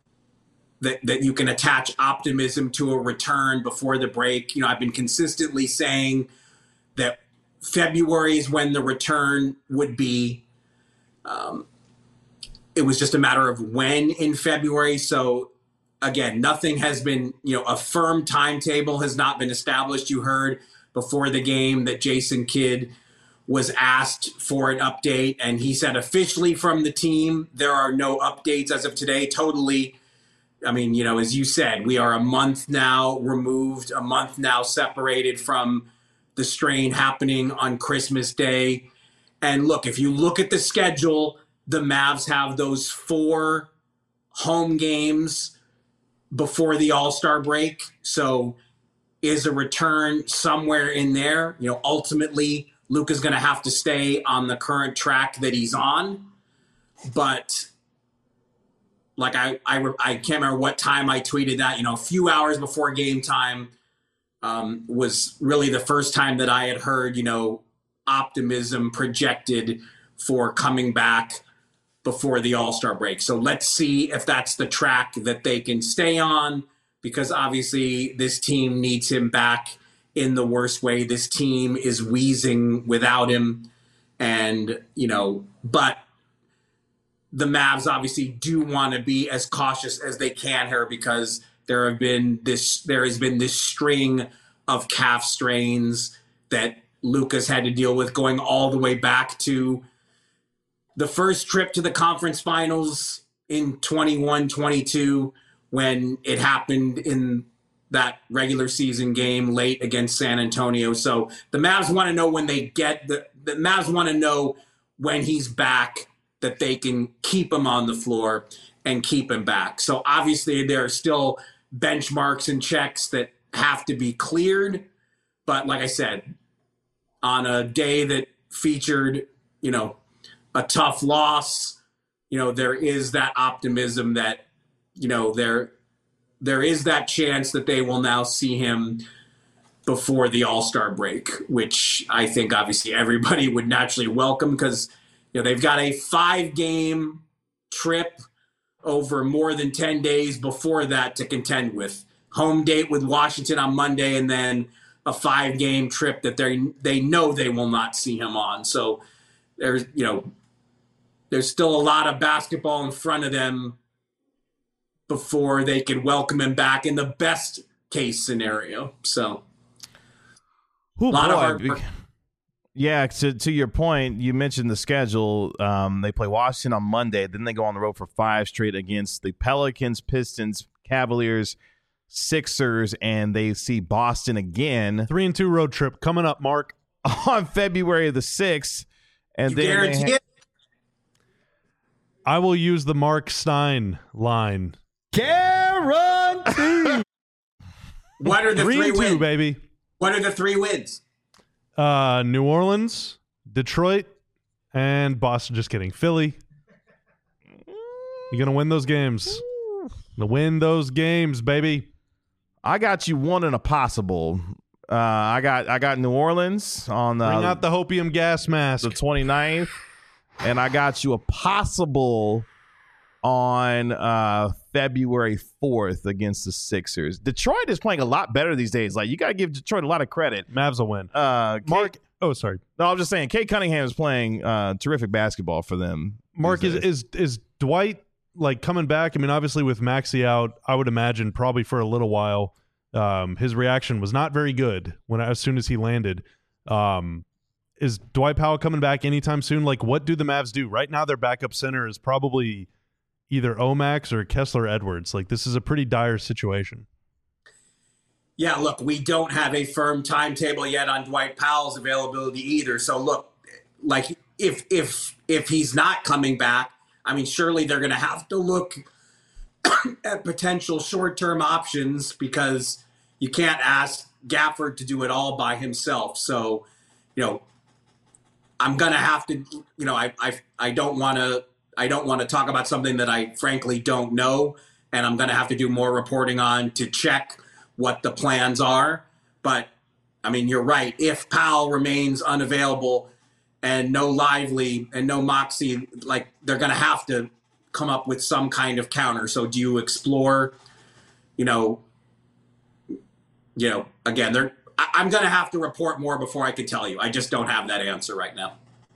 that, that you can attach optimism to a return before the break. You know, I've been consistently saying that February is when the return would be. Um, it was just a matter of when in February. So again, nothing has been, you know, a firm timetable has not been established. You heard before the game that Jason Kidd was asked for an update, and he said officially from the team, there are no updates as of today. Totally. I mean, you know, as you said, we are a month now removed, a month now separated from the strain happening on Christmas Day. And look, if you look at the schedule, the Mavs have those four home games before the All-Star break. So is a return somewhere in there? You know, ultimately, Luka's going to have to stay on the current track that he's on. But like I, I, I can't remember what time I tweeted that, you know, a few hours before game time um, was really the first time that I had heard, you know, optimism projected for coming back before the All-Star break. So let's see if that's the track that they can stay on, because obviously this team needs him back in the worst way. This team is wheezing without him. And, you know, but the Mavs obviously do want to be as cautious as they can here, because there have been this, there has been this string of calf strains that Luka's had to deal with, going all the way back to the first trip to the conference finals in twenty-one twenty-two, when it happened in that regular season game late against San Antonio. So the Mavs want to know when they get the, the Mavs want to know when he's back, that they can keep him on the floor and keep him back. So obviously there are still benchmarks and checks that have to be cleared. But like I said, on a day that featured, you know, a tough loss, you know, there is that optimism that, you know, there, there is that chance that they will now see him before the All-Star break, which I think obviously everybody would naturally welcome, because, you know, they've got a five-game trip over more than ten days before that to contend with. Home date with Washington on Monday, and then a five-game trip that they they know they will not see him on. So there's, you know, there's still a lot of basketball in front of them before they can welcome him back in the best case scenario. So Ooh, a lot boy. of hard work. Yeah, to to your point, you mentioned the schedule. Um, they play Washington on Monday, then they go on the road for five straight against the Pelicans, Pistons, Cavaliers, Sixers, and they see Boston again. Three and two road trip coming up, Mark, on February the sixth. And You then guarantee they ha- it? I will use the Mark Stein line. Guarantee. What are the Three three and two, wins? baby. What are the three wins? Uh, New Orleans, Detroit, and Boston. Just kidding. Philly. You're going to win those games. Gonna win those games, baby. I got you one in a possible. Uh, I got I got New Orleans on the, Bring out the hopium gas mask. the twenty-ninth, and I got you a possible on uh, February fourth against the Sixers. Detroit is playing a lot better these days. Like, you got to give Detroit a lot of credit. Mavs will win. Uh, Mark. Kate, Oh, sorry. no, I'm just saying, Kate Cunningham is playing uh, terrific basketball for them. Mark, these is, days. is is Dwight like coming back? I mean, obviously with Maxey out, I would imagine probably for a little while. Um, his reaction was not very good when as soon as he landed. Um, is Dwight Powell coming back anytime soon? Like, what do the Mavs do right now? Their backup center is probably either Omax or Kessler Edwards. Like, this is a pretty dire situation. Yeah, look, we don't have a firm timetable yet on Dwight Powell's availability either. So look, like if if if he's not coming back, I mean, surely they're going to have to look at potential short-term options because you can't ask Gafford to do it all by himself. So, you know, I'm going to have to, you know, I I I don't want to I don't want to talk about something that I frankly don't know, and I'm going to have to do more reporting on to check what the plans are. But I mean, you're right. If Powell remains unavailable and no Lively and no Moxie, like they're going to have to come up with some kind of counter. So do you explore, you know, you know, again, they're, I, I'm going to have to report more before I can tell you. I just don't have that answer right now.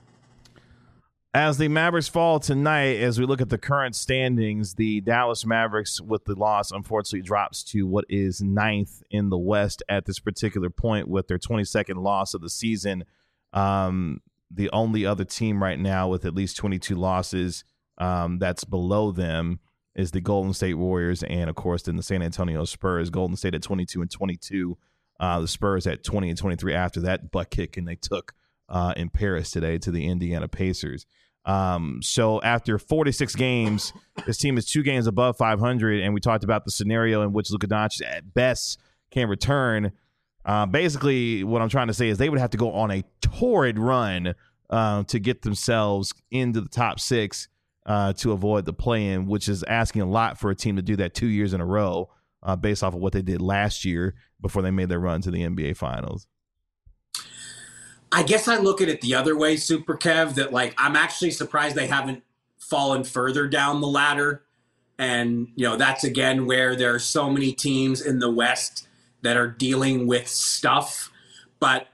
As the Mavericks fall tonight, as we look at the current standings, the Dallas Mavericks, with the loss, unfortunately drops to what is ninth in the West at this particular point with their twenty-second loss of the season. Um, the only other team right now with at least twenty-two losses um, that's below them is the Golden State Warriors and, of course, then the San Antonio Spurs. Golden State at twenty-two and twenty-two. Uh, the Spurs at twenty and twenty-three after that butt kicking they took uh, in Paris today to the Indiana Pacers. Um, so after forty-six games, this team is two games above five hundred, and we talked about the scenario in which Luka Doncic at best can return. Uh, basically, what I'm trying to say is they would have to go on a torrid run uh, to get themselves into the top six uh, to avoid the play-in, which is asking a lot for a team to do that two years in a row uh, based off of what they did last year before they made their run to the N B A Finals. I guess I look at it the other way, Super Kev, that like I'm actually surprised they haven't fallen further down the ladder. And, you know, that's again where there are so many teams in the West that are dealing with stuff. But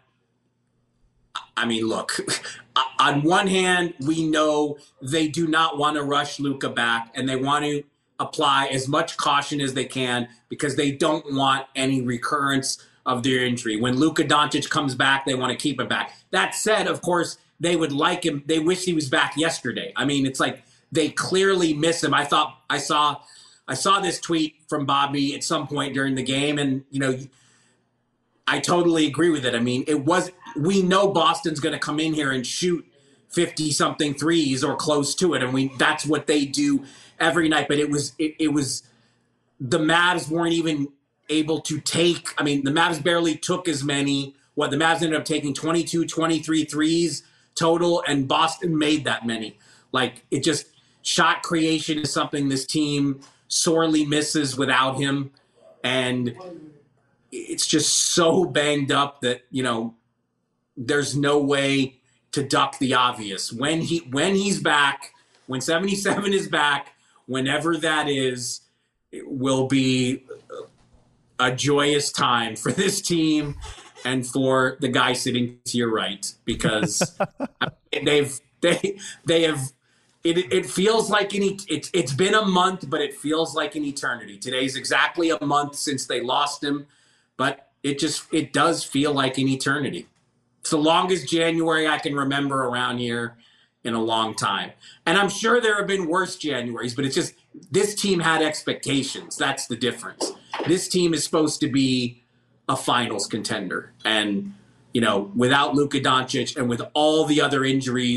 I mean, look, on one hand, we know they do not want to rush Luka back and they want to apply as much caution as they can because they don't want any recurrence of their injury. When Luka Doncic comes back, they want to keep him back. That said, of course, they would like him. They wish he was back yesterday. I mean, it's like they clearly miss him. I thought I saw, I saw this tweet from Bobby at some point during the game, and you know, I totally agree with it. I mean, it was. We know Boston's going to come in here and shoot fifty something threes or close to it, and we that's what they do every night. But it was it, it was the Mavs weren't even able to take, I mean, the Mavs barely took as many. What the Mavs ended up taking twenty-two, twenty-three threes total, and Boston made that many. Like, it just, shot creation is something this team sorely misses without him. And it's just so banged up that, you know, there's no way to duck the obvious. When he when he's back, when seventy-seven is back, whenever that is, it will be a joyous time for this team and for the guy sitting to your right, because they've they they have it. It feels like an it's it's been a month, but it feels like an eternity. Today's exactly a month since they lost him, but it just it does feel like an eternity. It's the longest January I can remember around here in a long time, and I'm sure there have been worse Januaries, but it's just this team had expectations. That's the difference. This team is supposed to be a finals contender. And, you know, without Luka Doncic and with all the other injuries,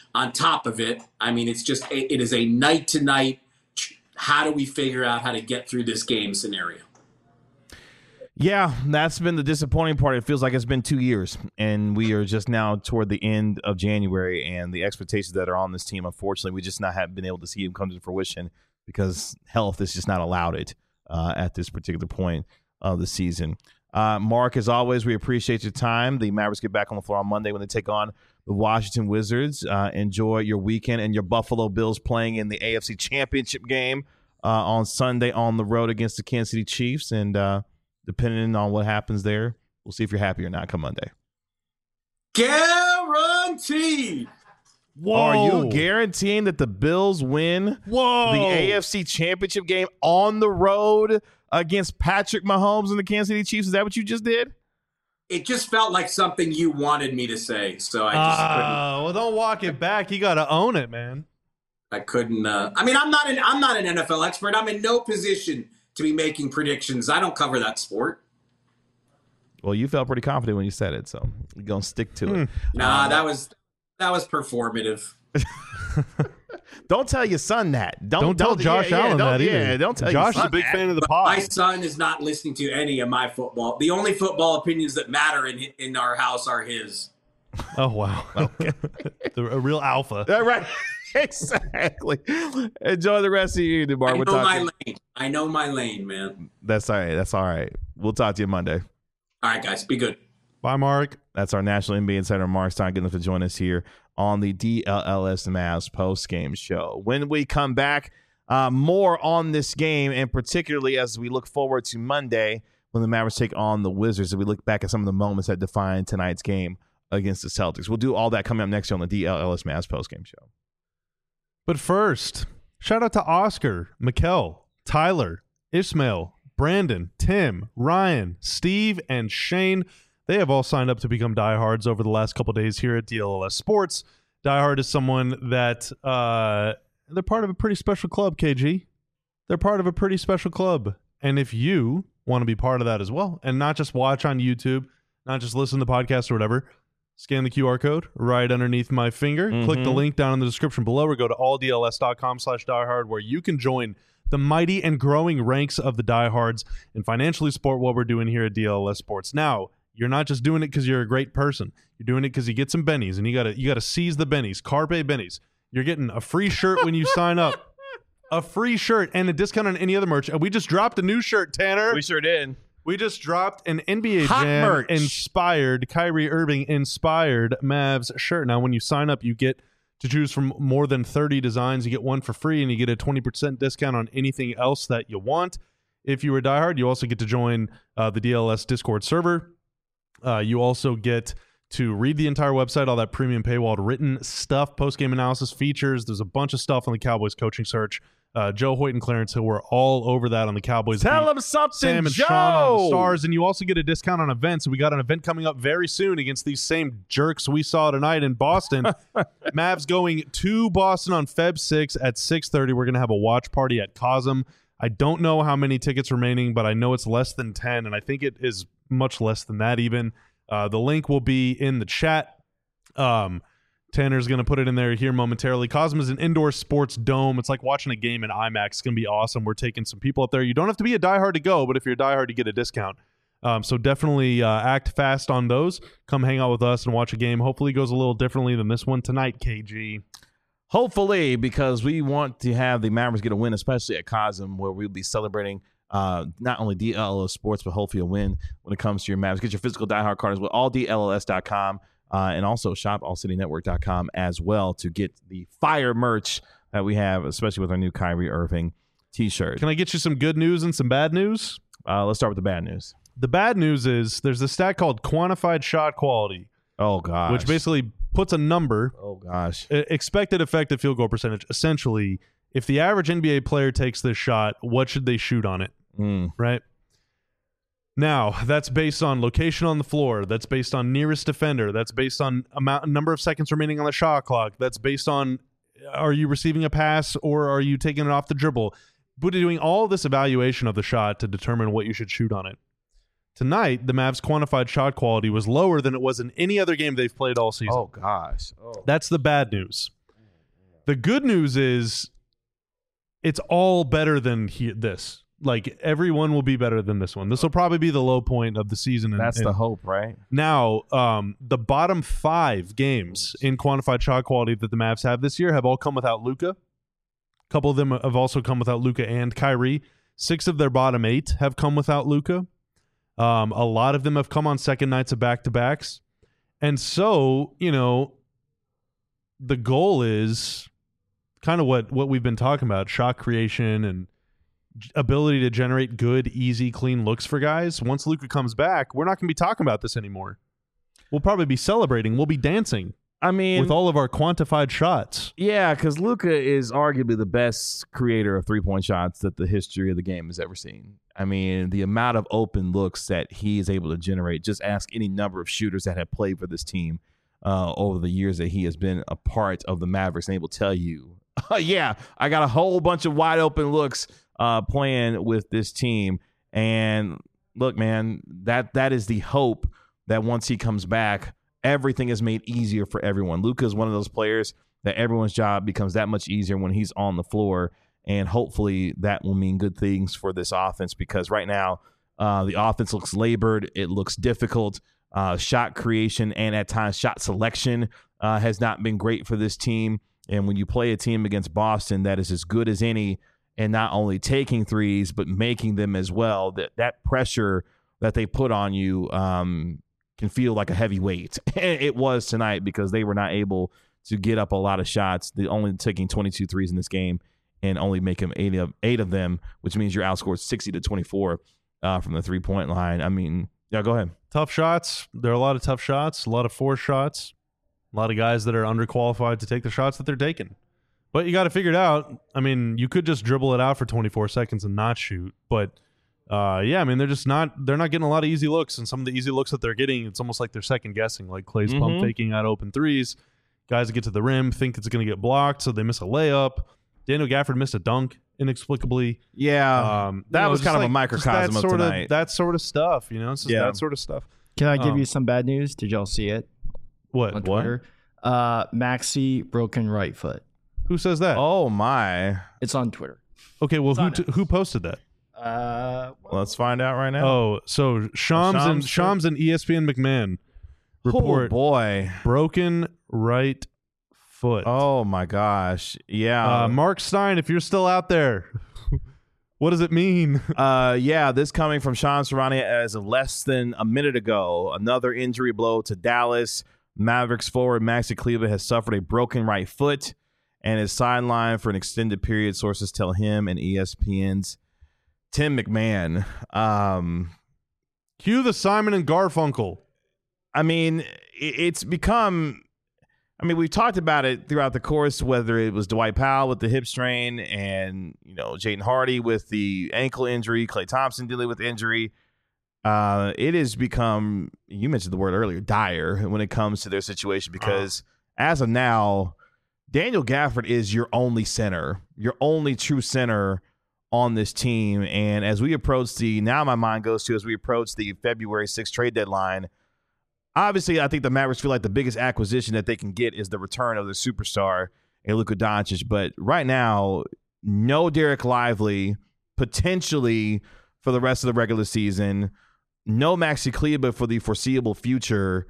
on top of it, I mean, it's just it is a night to night. How do we figure out how to get through this game scenario? Yeah, that's been the disappointing part. It feels like it's been two years, and we are just now toward the end of January, and the expectations that are on this team, unfortunately, we just not have been able to see them come to fruition because health has just not allowed it uh, at this particular point of the season. Uh, Mark, as always, we appreciate your time. The Mavericks get back on the floor on Monday when they take on the Washington Wizards. Uh, enjoy your weekend and your Buffalo Bills playing in the A F C Championship game uh, on Sunday on the road against the Kansas City Chiefs, and uh, depending on what happens there, we'll see if you're happy or not come Monday. Guaranteed. Whoa. Are you guaranteeing that the Bills win Whoa. the A F C Championship game on the road against Patrick Mahomes and the Kansas City Chiefs? Is that what you just did? It just felt like something you wanted me to say, so I just Uh, couldn't. well, don't walk it back. You got to own it, man. I couldn't. Uh, I mean, I'm not an I'm not an N F L expert. I'm in no position to be making predictions. I don't cover that sport. Well, you felt pretty confident when you said it, so we're going to stick to it. Nah, that was that was performative. Don't tell your son that. Don't, Don't tell Josh yeah, yeah, Allen don't- that either. Yeah, don't tell Josh your is son a big that. fan of the But pod. my son is not listening to any of my football. The only football opinions that matter in in our house are his. Oh, wow. Okay. the, a real alpha. Yeah, right. Exactly. Enjoy the rest of your evening, Mark. I know We'll talk my to you- lane. I know my lane, man. That's all right. That's all right. We'll talk to you Monday. All right, guys, be good. Bye, Mark. That's our National N B A Insider, Mark Stein, getting to join us here on the D L L S Mavs post-game show. When we come back, uh, more on this game, and particularly as we look forward to Monday when the Mavericks take on the Wizards, and we look back at some of the moments that define tonight's game against the Celtics. We'll do all that coming up next year on the D L L S Mavs post-game show. But first, shout out to Oscar, Mikkel, Tyler, Ismail, Brandon, Tim, Ryan, Steve, and Shane. They have all signed up to become diehards over the last couple days here at D L L S Sports. Diehard is someone that uh, they're part of a pretty special club, K G. They're part of a pretty special club. And if you want to be part of that as well, and not just watch on YouTube, not just listen to the podcast or whatever, scan the Q R code right underneath my finger. Mm-hmm. Click the link down in the description below or go to all D L S dot com slash diehard where you can join the mighty and growing ranks of the diehards and financially support what we're doing here at D L L S Sports. Now, you're not just doing it because you're a great person. You're doing it because you get some bennies, and you gotta you gotta seize the bennies. Carpe bennies. You're getting a free shirt when you sign up. A free shirt and a discount on any other merch. And we just dropped a new shirt, Tanner. We sure did. We just dropped an N B A Hot Jam merch. inspired, Kyrie Irving inspired Mavs shirt. Now, when you sign up, you get to choose from more than thirty designs. You get one for free, and you get a twenty percent discount on anything else that you want. If you were diehard, you also get to join uh, the D L L S Discord server. Uh, you also get to read the entire website, all that premium paywalled written stuff, post-game analysis, features. There's a bunch of stuff on the Cowboys coaching search. Uh, Joe Hoyt and Clarence Hill were all over that on the Cowboys Tell beat. them something, Sam and Joe. Sean on the Stars, and you also get a discount on events. We got an event coming up very soon against these same jerks we saw tonight in Boston. Mavs going to Boston on February sixth at six thirty. We're going to have a watch party at Cosm. I don't know how many tickets remaining, but I know it's less than ten, and I think it is much less than that even. Uh, the link will be in the chat. Um, Tanner's going to put it in there here momentarily. Cosm is an indoor sports dome. It's like watching a game in IMAX. It's going to be awesome. We're taking some people up there. You don't have to be a diehard to go, but if you're a diehard, you get a discount. Um, so definitely uh, act fast on those. Come hang out with us and watch a game. Hopefully it goes a little differently than this one tonight, K G. Hopefully, because we want to have the Mavericks get a win, especially at Cosm, where we'll be celebrating uh, not only D L L S Sports, but hopefully a win when it comes to your Mavericks. Get your physical diehard card as well, all D L L S dot com, uh, and also shop all city network dot com as well to get the fire merch that we have, especially with our new Kyrie Irving t-shirt. Can I get you some good news and some bad news? Uh, let's start with the bad news. The bad news is there's a stat called quantified shot quality, Oh, gosh. which basically puts a number, Oh, gosh. uh, expected effective field goal percentage. Essentially, if the average N B A player takes this shot, what should they shoot on it? Mm. Right? Now, that's based on location on the floor. That's based on nearest defender. That's based on amount number of seconds remaining on the shot clock. That's based on are you receiving a pass or are you taking it off the dribble? But doing all this evaluation of the shot to determine what you should shoot on it. Tonight, the Mavs' quantified shot quality was lower than it was in any other game they've played all season. Oh, gosh. Oh. That's the bad news. The good news is it's all better than he, this. Like, everyone will be better than this one. This will probably be the low point of the season. And, That's and the hope, right? now, um, the bottom five games in quantified shot quality that the Mavs have this year have all come without Luka. A couple of them have also come without Luka and Kyrie. Six of their bottom eight have come without Luka. Um, a lot of them have come on second nights of back-to-backs. And so, you know, the goal is kind of what, what we've been talking about, shot creation and ability to generate good, easy, clean looks for guys. Once Luka comes back, we're not going to be talking about this anymore. We'll probably be celebrating. We'll be dancing I mean, with all of our quantified shots. yeah, because Luka is arguably the best creator of three-point shots that the history of the game has ever seen. I mean, the amount of open looks that he is able to generate, just ask any number of shooters that have played for this team uh, over the years that he has been a part of the Mavericks, and they will tell you, yeah, I got a whole bunch of wide open looks uh, playing with this team. And look, man, that that is the hope that once he comes back, everything is made easier for everyone. Luka is one of those players that everyone's job becomes that much easier when he's on the floor, and hopefully that will mean good things for this offense, because right now uh, the offense looks labored. It looks difficult. Uh, shot creation and at times shot selection uh, has not been great for this team. And when you play a team against Boston that is as good as any, and not only taking threes but making them as well, that that pressure that they put on you um, can feel like a heavy weight. It was tonight because they were not able to get up a lot of shots. They only taking twenty-two threes in this game and only making eight of eight of them, which means you're outscored sixty to twenty-four uh, from the three point line. I mean, yeah, go ahead. Tough shots. There are a lot of tough shots, a lot of forced shots, a lot of guys that are underqualified to take the shots that they're taking. But you got to figure it out. I mean, you could just dribble it out for twenty-four seconds and not shoot. But, uh, yeah, I mean, they're just not – they're not getting a lot of easy looks. And some of the easy looks that they're getting, it's almost like they're second-guessing. Like Clay's Mhm. pump faking out open threes. Guys that get to the rim think it's going to get blocked, so they miss a layup. Daniel Gafford missed a dunk inexplicably. Yeah, Um, that you know, was just kind of a like- just microcosm that of sort tonight. Of, that sort of stuff, you know? It's just Yeah. that sort of stuff. Can I give Um, you some bad news? Did y'all see it What? on What? Twitter? Uh, Maxi broken right foot. Who says that? Oh, my. It's on Twitter. Okay, well, who on t- who posted that? Uh, Let's find out right now. Oh, so Shams and Shams Shams and E S P N McMahon Oh, report boy. broken right foot. Oh, my gosh. Yeah. Uh, Mark Stein, if you're still out there, what does it mean? Uh, yeah, this coming from Sean Serrani as of less than a minute ago. Another injury blow to Dallas. Mavericks forward Maxi Kleber has suffered a broken right foot and is sidelined for an extended period, sources tell him, and E S P N's Tim McMahon. Um, Cue the Simon and Garfunkel. I mean, it- it's become... I mean, we've talked about it throughout the course, whether it was Dwight Powell with the hip strain and, you know, Jaden Hardy with the ankle injury, Klay Thompson dealing with injury. Uh, it has become, you mentioned the word earlier, dire when it comes to their situation because uh-huh. as of now, Daniel Gafford is your only center, your only true center on this team. And as we approach the, now my mind goes to as we approach the February sixth trade deadline, obviously, I think the Mavericks feel like the biggest acquisition that they can get is the return of the superstar in Luka Doncic. But right now, no Derek Lively, potentially for the rest of the regular season, no Maxi Kleber for the foreseeable future.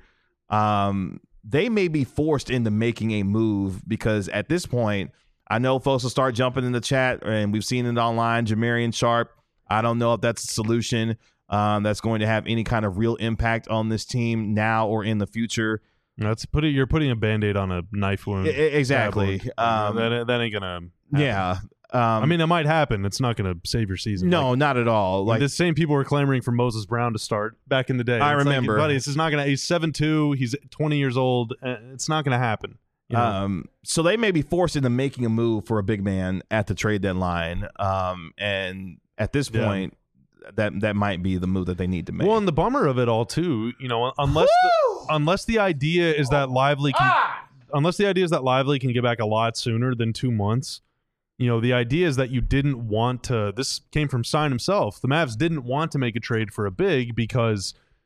Um, they may be forced into making a move because at this point, I know folks will start jumping in the chat, and we've seen it online, Jamarian Sharp. I don't know if that's a solution. Um, that's going to have any kind of real impact on this team now or in the future. That's put it. You're putting a Band-Aid on a knife wound. I- exactly. Stab wound. Um, that, that ain't gonna. Happen. Yeah. Um, I mean, it might happen. It's not gonna save your season. no, Like, not at all. like Like the same people were clamoring for Moses Brown to start back in the day. I It's like, remember. buddy. This is not gonna. He's seven two. He's twenty years old. Uh, It's not gonna happen. You know? Um, so they may be forced into making a move for a big man at the trade deadline. Um, and at this Yeah. point, that that might be the move that they need to make. Well, and the bummer of it all too, you know, unless the, unless the idea is that Lively can, unless the idea is that Lively can get back a lot sooner than two months. You know, the idea is that you didn't want to. This came from Stein himself. The Mavs didn't want to make a trade for a big because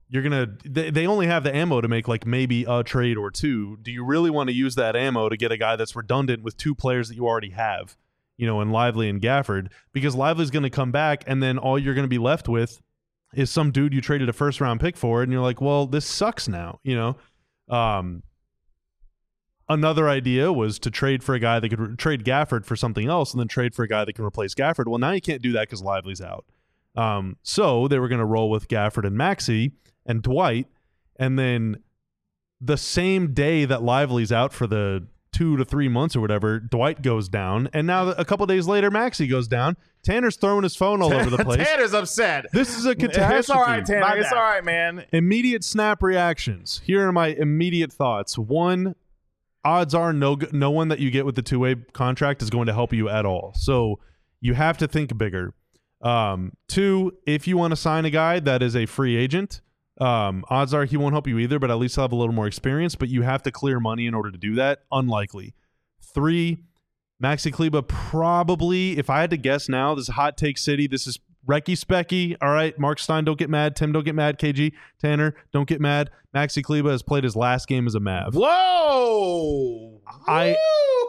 you're gonna they, they only have the ammo to make like maybe a trade or two. Do you really want to use that ammo to get a guy that's redundant with two players that you already have, you know, in Lively and Gafford? Because Lively's going to come back, and then all you're going to be left with is some dude you traded a first round pick for, and you're like, well, this sucks now, you know. Um, another idea was to trade for a guy that could re- trade Gafford for something else, and then trade for a guy that can replace Gafford. Well, now you can't do that because Lively's out. Um, so they were going to roll with Gafford and Maxey and Dwight, and then the same day that Lively's out for the two to three months or whatever, Dwight goes down, and now a couple days later, Maxey goes down. Tanner's throwing his phone all over the place. Tanner's upset. This is a catastrophe. It's all right, Tanner. My It's bad. all right, man. Immediate snap reactions. Here are my immediate thoughts. One, odds are no no one that you get with the two-way contract is going to help you at all. So you have to think bigger. Um, two, if you want to sign a guy that is a free agent, um, odds are he won't help you either, but at least he'll have a little more experience, but you have to clear money in order to do that. Unlikely. Three, Maxi Kleba probably, if I had to guess now, this is Hot Take City. This is Recky Specky. All right, Mark Stein, don't get mad. Tim, don't get mad. K G, Tanner, don't get mad. Maxi Kleba has played his last game as a Mav. Whoa! I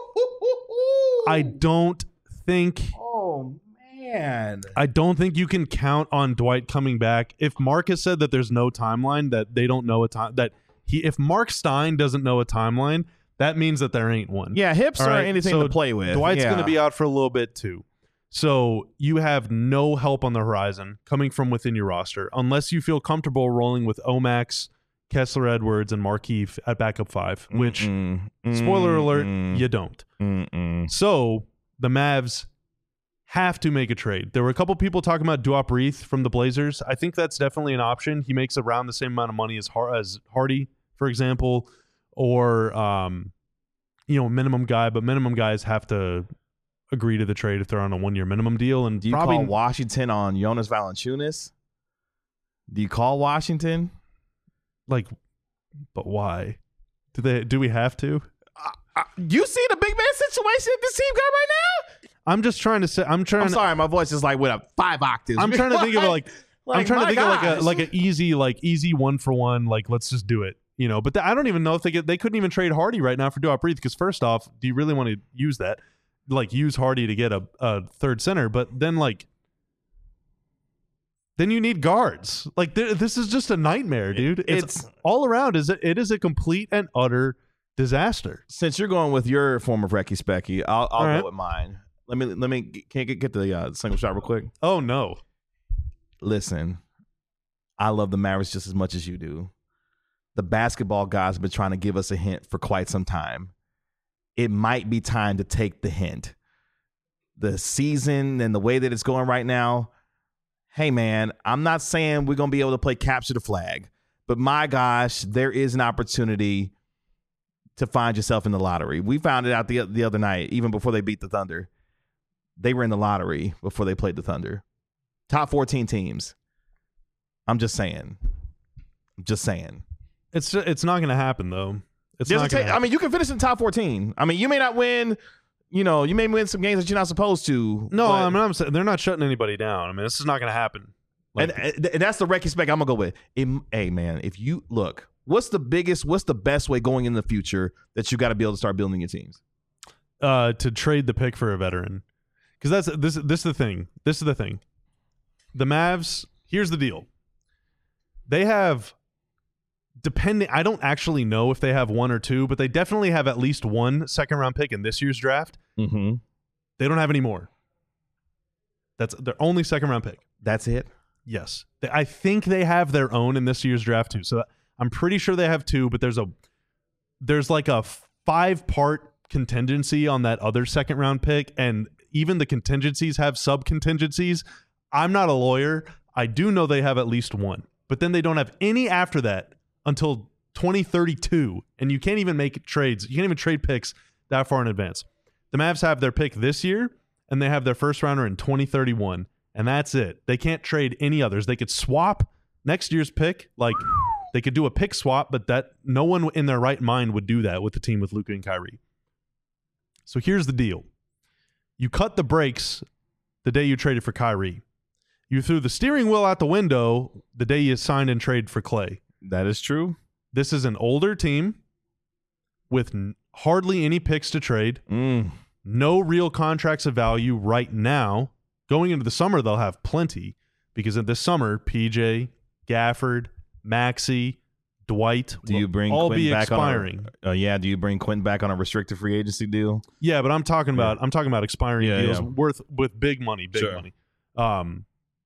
I don't think Oh man! I don't think you can count on Dwight coming back. If Mark has said that there's no timeline, that they don't know a time, that he, if Mark Stein doesn't know a timeline, that means that there ain't one. Yeah, hips All aren't right, anything so to play with. Dwight's yeah. going to be out for a little bit too. So you have no help on the horizon coming from within your roster unless you feel comfortable rolling with Omax, Kessler Edwards, and Markeith at backup five, which, Mm-mm. spoiler alert, Mm-mm. you don't. Mm-mm. So the Mavs have to make a trade. There were a couple people talking about Duop Reith from the Blazers. I think that's definitely an option. He makes around the same amount of money as Har- as Hardy, for example, or um, you know, minimum guy. But minimum guys have to agree to the trade if they're on a one-year minimum deal. And Do you probably call Washington on Jonas Valanciunas? Do you call Washington? like, but why? Do they? Do we have to? Uh, you see the big man situation that this team got right now? I'm just trying to say. I'm trying. I'm to, sorry, my voice is like with a five octaves. I'm trying to think of like. I'm trying to my think of like a gosh. like an easy like easy one for one, like let's just do it, you know. But th- I don't even know if they get they couldn't even trade Hardy right now for Duop Reith, because first off, do you really want to use that, like use Hardy to get a, a third center? But then like then you need guards. Like th- this is just a nightmare, dude. It's, It's- all around is it, it is a complete and utter disaster. Since you're going with your form of Recky Specky, I'll, I'll All right. go with mine. Let me let me can I get get the uh, single shot real quick. Oh no. Listen, I love the Mavericks just as much as you do. The basketball guys have been trying to give us a hint for quite some time. It might be time to take the hint. The season and the way that it's going right now, hey, man, I'm not saying we're going to be able to play capture the flag, but my gosh, there is an opportunity to find yourself in the lottery. We found it out the, the other night, even before they beat the Thunder. They were in the lottery before they played the Thunder. Top fourteen teams. I'm just saying. I'm just saying. It's it's not going to happen though. It's Doesn't not going take- to I mean, you can finish in the top fourteen. I mean, you may not win, you know, you may win some games that you're not supposed to. No, but- I mean, I'm saying they're not shutting anybody down. I mean, this is not going to happen. Like, and, and that's the Recky spec I'm going to go with. It, hey, man, if you look, what's the biggest, what's the best way going in the future that you got to be able to start building your teams? uh, to trade the pick for a veteran, because that's this. This is the thing. This is the thing. The Mavs. Here's the deal. They have, depending. I don't actually know if they have one or two, but they definitely have at least one second round pick in this year's draft. Mm-hmm. They don't have any more. That's their only second round pick. That's it. Yes, They- I think they have their own in this year's draft too. So I'm pretty sure they have two, but there's a there's like a five part contingency on that other second round pick, and even the contingencies have sub contingencies. I'm not a lawyer. I do know they have at least one, but then they don't have any after that until twenty thirty-two, and you can't even make trades. You can't even trade picks that far in advance. The Mavs have their pick this year, and they have their first rounder in twenty thirty-one, and that's it. They can't trade any others. They could swap next year's pick, like they could do a pick swap, but that no one in their right mind would do that with the team with Luka and Kyrie. So here's the deal. You cut the brakes the day you traded for Kyrie. You threw the steering wheel out the window the day you signed and traded for Clay. That is true. This is an older team with n- hardly any picks to trade, Mm. no real contracts of value right now. Going into the summer, they'll have plenty because in this summer, P J, Gafford, Maxey, Dwight Do you will bring all Quentin be back expiring. on a, uh, yeah, do you bring Quentin back on a restricted free agency deal? Yeah, but I'm talking about I'm talking about expiring Yeah, deals yeah. worth with big money, big Sure. money. Um,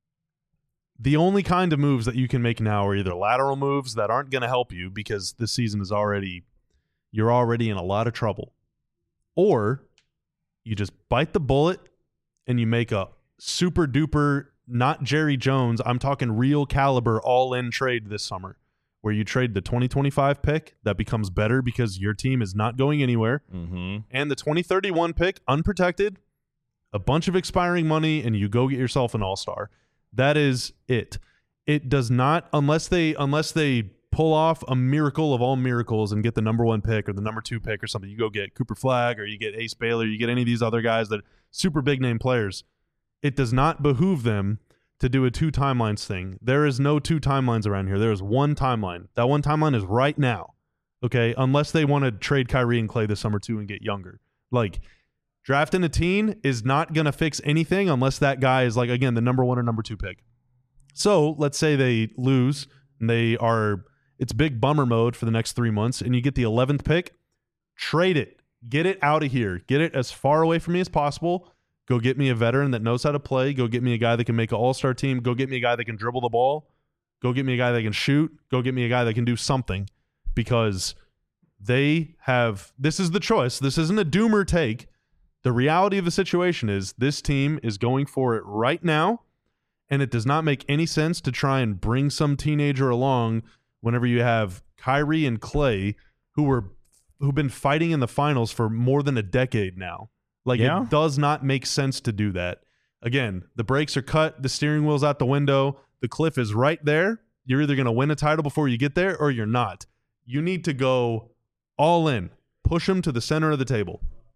the only kind of moves that you can make now are either lateral moves that aren't going to help you because this season is already you're already in a lot of trouble, or you just bite the bullet and you make a super duper not Jerry Jones. I'm talking real caliber all in trade this summer, where you trade the twenty twenty-five pick that becomes better because your team is not going anywhere, Mm-hmm. and the twenty thirty-one pick unprotected, a bunch of expiring money, and you go get yourself an all-star. That is it. It does not, unless they unless they pull off a miracle of all miracles and get the number one pick or the number two pick or something. You go get Cooper Flagg or you get Ace Baylor, you get any of these other guys that super big name players. It does not behoove them to do a two timelines thing. There is no two timelines around here. There is one timeline. That one timeline is right now. Okay, unless they want to trade Kyrie and Clay this summer too and get younger. Like, drafting a teen is not going to fix anything unless that guy is, like, again, the number one or number two pick. So let's say they lose and they are, it's big bummer mode for the next three months and you get the eleventh pick, trade it. Get it out of here. Get it as far away from me as possible. Go get me a veteran that knows how to play. Go get me a guy that can make an all-star team. Go get me a guy that can dribble the ball. Go get me a guy that can shoot. Go get me a guy that can do something, because they have, this is the choice. This isn't a doomer take. The reality of the situation is this team is going for it right now, and it does not make any sense to try and bring some teenager along whenever you have Kyrie and Clay, who were who've been fighting in the finals for more than a decade now. Like, Yeah. it does not make sense to do that. Again, the brakes are cut, the steering wheel's out the window, the cliff is right there. You're either going to win a title before you get there or you're not. You need to go all in. Push them to the center of the table.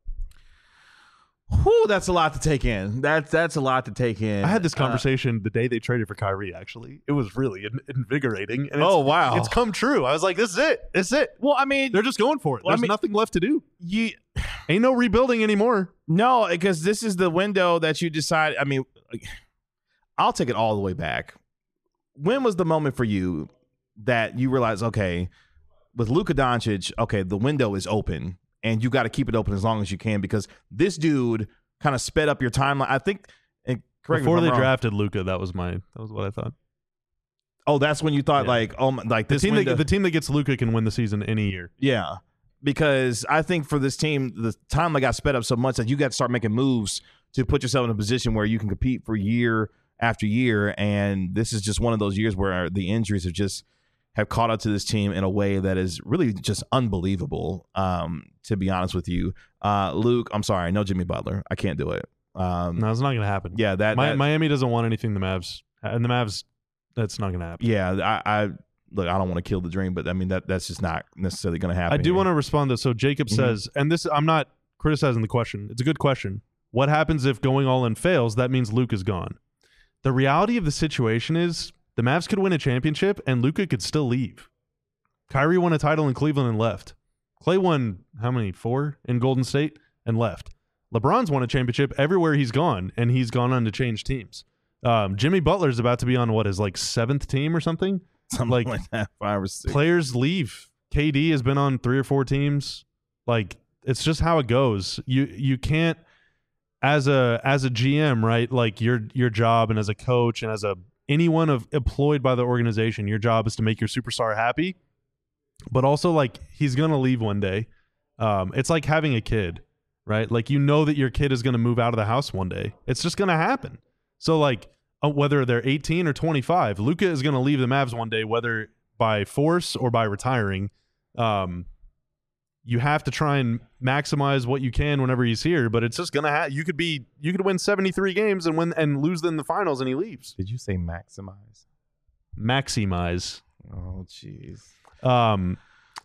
Whew, that's a lot to take in. That's that's a lot to take in. I had this Uh, conversation the day they traded for Kyrie, actually. It was really in- invigorating. And it's, oh wow, It's come true. I was like, this is it. This is it. well, I mean, They're just going for it. Well, I There's mean- nothing left to do. you Ain't no rebuilding anymore. no, because this is the window that you decide. I mean, I'll take it all the way back. When was the moment for you that you realize, okay, with Luka Doncic, okay, the window is open, and you got to keep it open as long as you can, because this dude kind of sped up your timeline. I think. And correct me Before if I'm they wrong. drafted Luka, that was my that was what I thought. Oh, that's when you thought Yeah. like, oh, my- like The this team window. that the team that gets Luka can win the season any year. Yeah, because I think for this team, the timeline got sped up so much that you got to start making moves to put yourself in a position where you can compete for year after year. And this is just one of those years where the injuries have just have caught up to this team in a way that is really just unbelievable. Um, to be honest with you, uh, Luke, I'm sorry, no Jimmy Butler, I can't do it. Um, No, it's not going to happen. yeah, that, Mi- that Miami doesn't want anything the Mavs, and the Mavs, that's not going to happen. yeah, I, I look, I don't want to kill the dream, but I mean that that's just not necessarily going to happen. I do here. want to respond to, so Jacob Mhm. says, and this, I'm not criticizing the question. It's a good question. What happens if going all in fails? That means Luke is gone. The reality of the situation is the Mavs could win a championship and Luka could still leave. Kyrie won a title in Cleveland and left. Clay won how many? Four in Golden State and left. LeBron's won a championship everywhere he's gone, and he's gone on to change teams. Um, Jimmy Butler's about to be on what, his like seventh team or something? something like, like, that, five or six. Players leave. K D has been on three or four teams. Like, it's just how it goes. You you can't, as a as a G M, right? Like, your your job, and as a coach, and as a anyone of employed by the organization, your job is to make your superstar happy. But also, like, he's gonna leave one day. Um, it's like having a kid, right? Like, you know that your kid is gonna move out of the house one day. It's just gonna happen. So, like, uh, whether they're eighteen or twenty-five, Luka is gonna leave the Mavs one day, whether by force or by retiring. Um, you have to try and maximize what you can whenever he's here, but it's just gonna have. You could be, you could win seventy-three games and win and lose in the finals, and he leaves. Did you say maximize? Maximize. Oh, jeez. Um,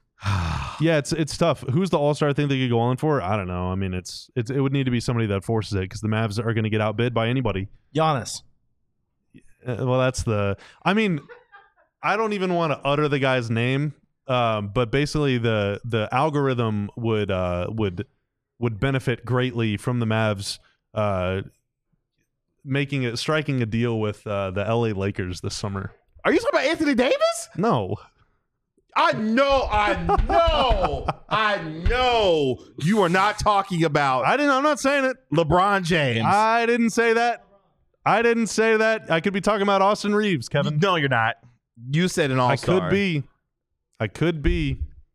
yeah, it's it's tough. Who's the all star thing they could go on for? I don't know. I mean, it's it's it would need to be somebody that forces it, because the Mavs are going to get outbid by anybody. Giannis. Uh, well, that's the. I mean, I don't even want to utter the guy's name, um, but basically the the algorithm would uh, would would benefit greatly from the Mavs uh, making it striking a deal with uh, the L A Lakers this summer. Are you talking about Anthony Davis? No, I know, I know, I know. You are not talking about I didn't. I'm not saying it. LeBron James. I didn't say that. I didn't say that. I could be talking about Austin Reeves, Kevin. No, you're not. You said an I all-star. could be. I could be.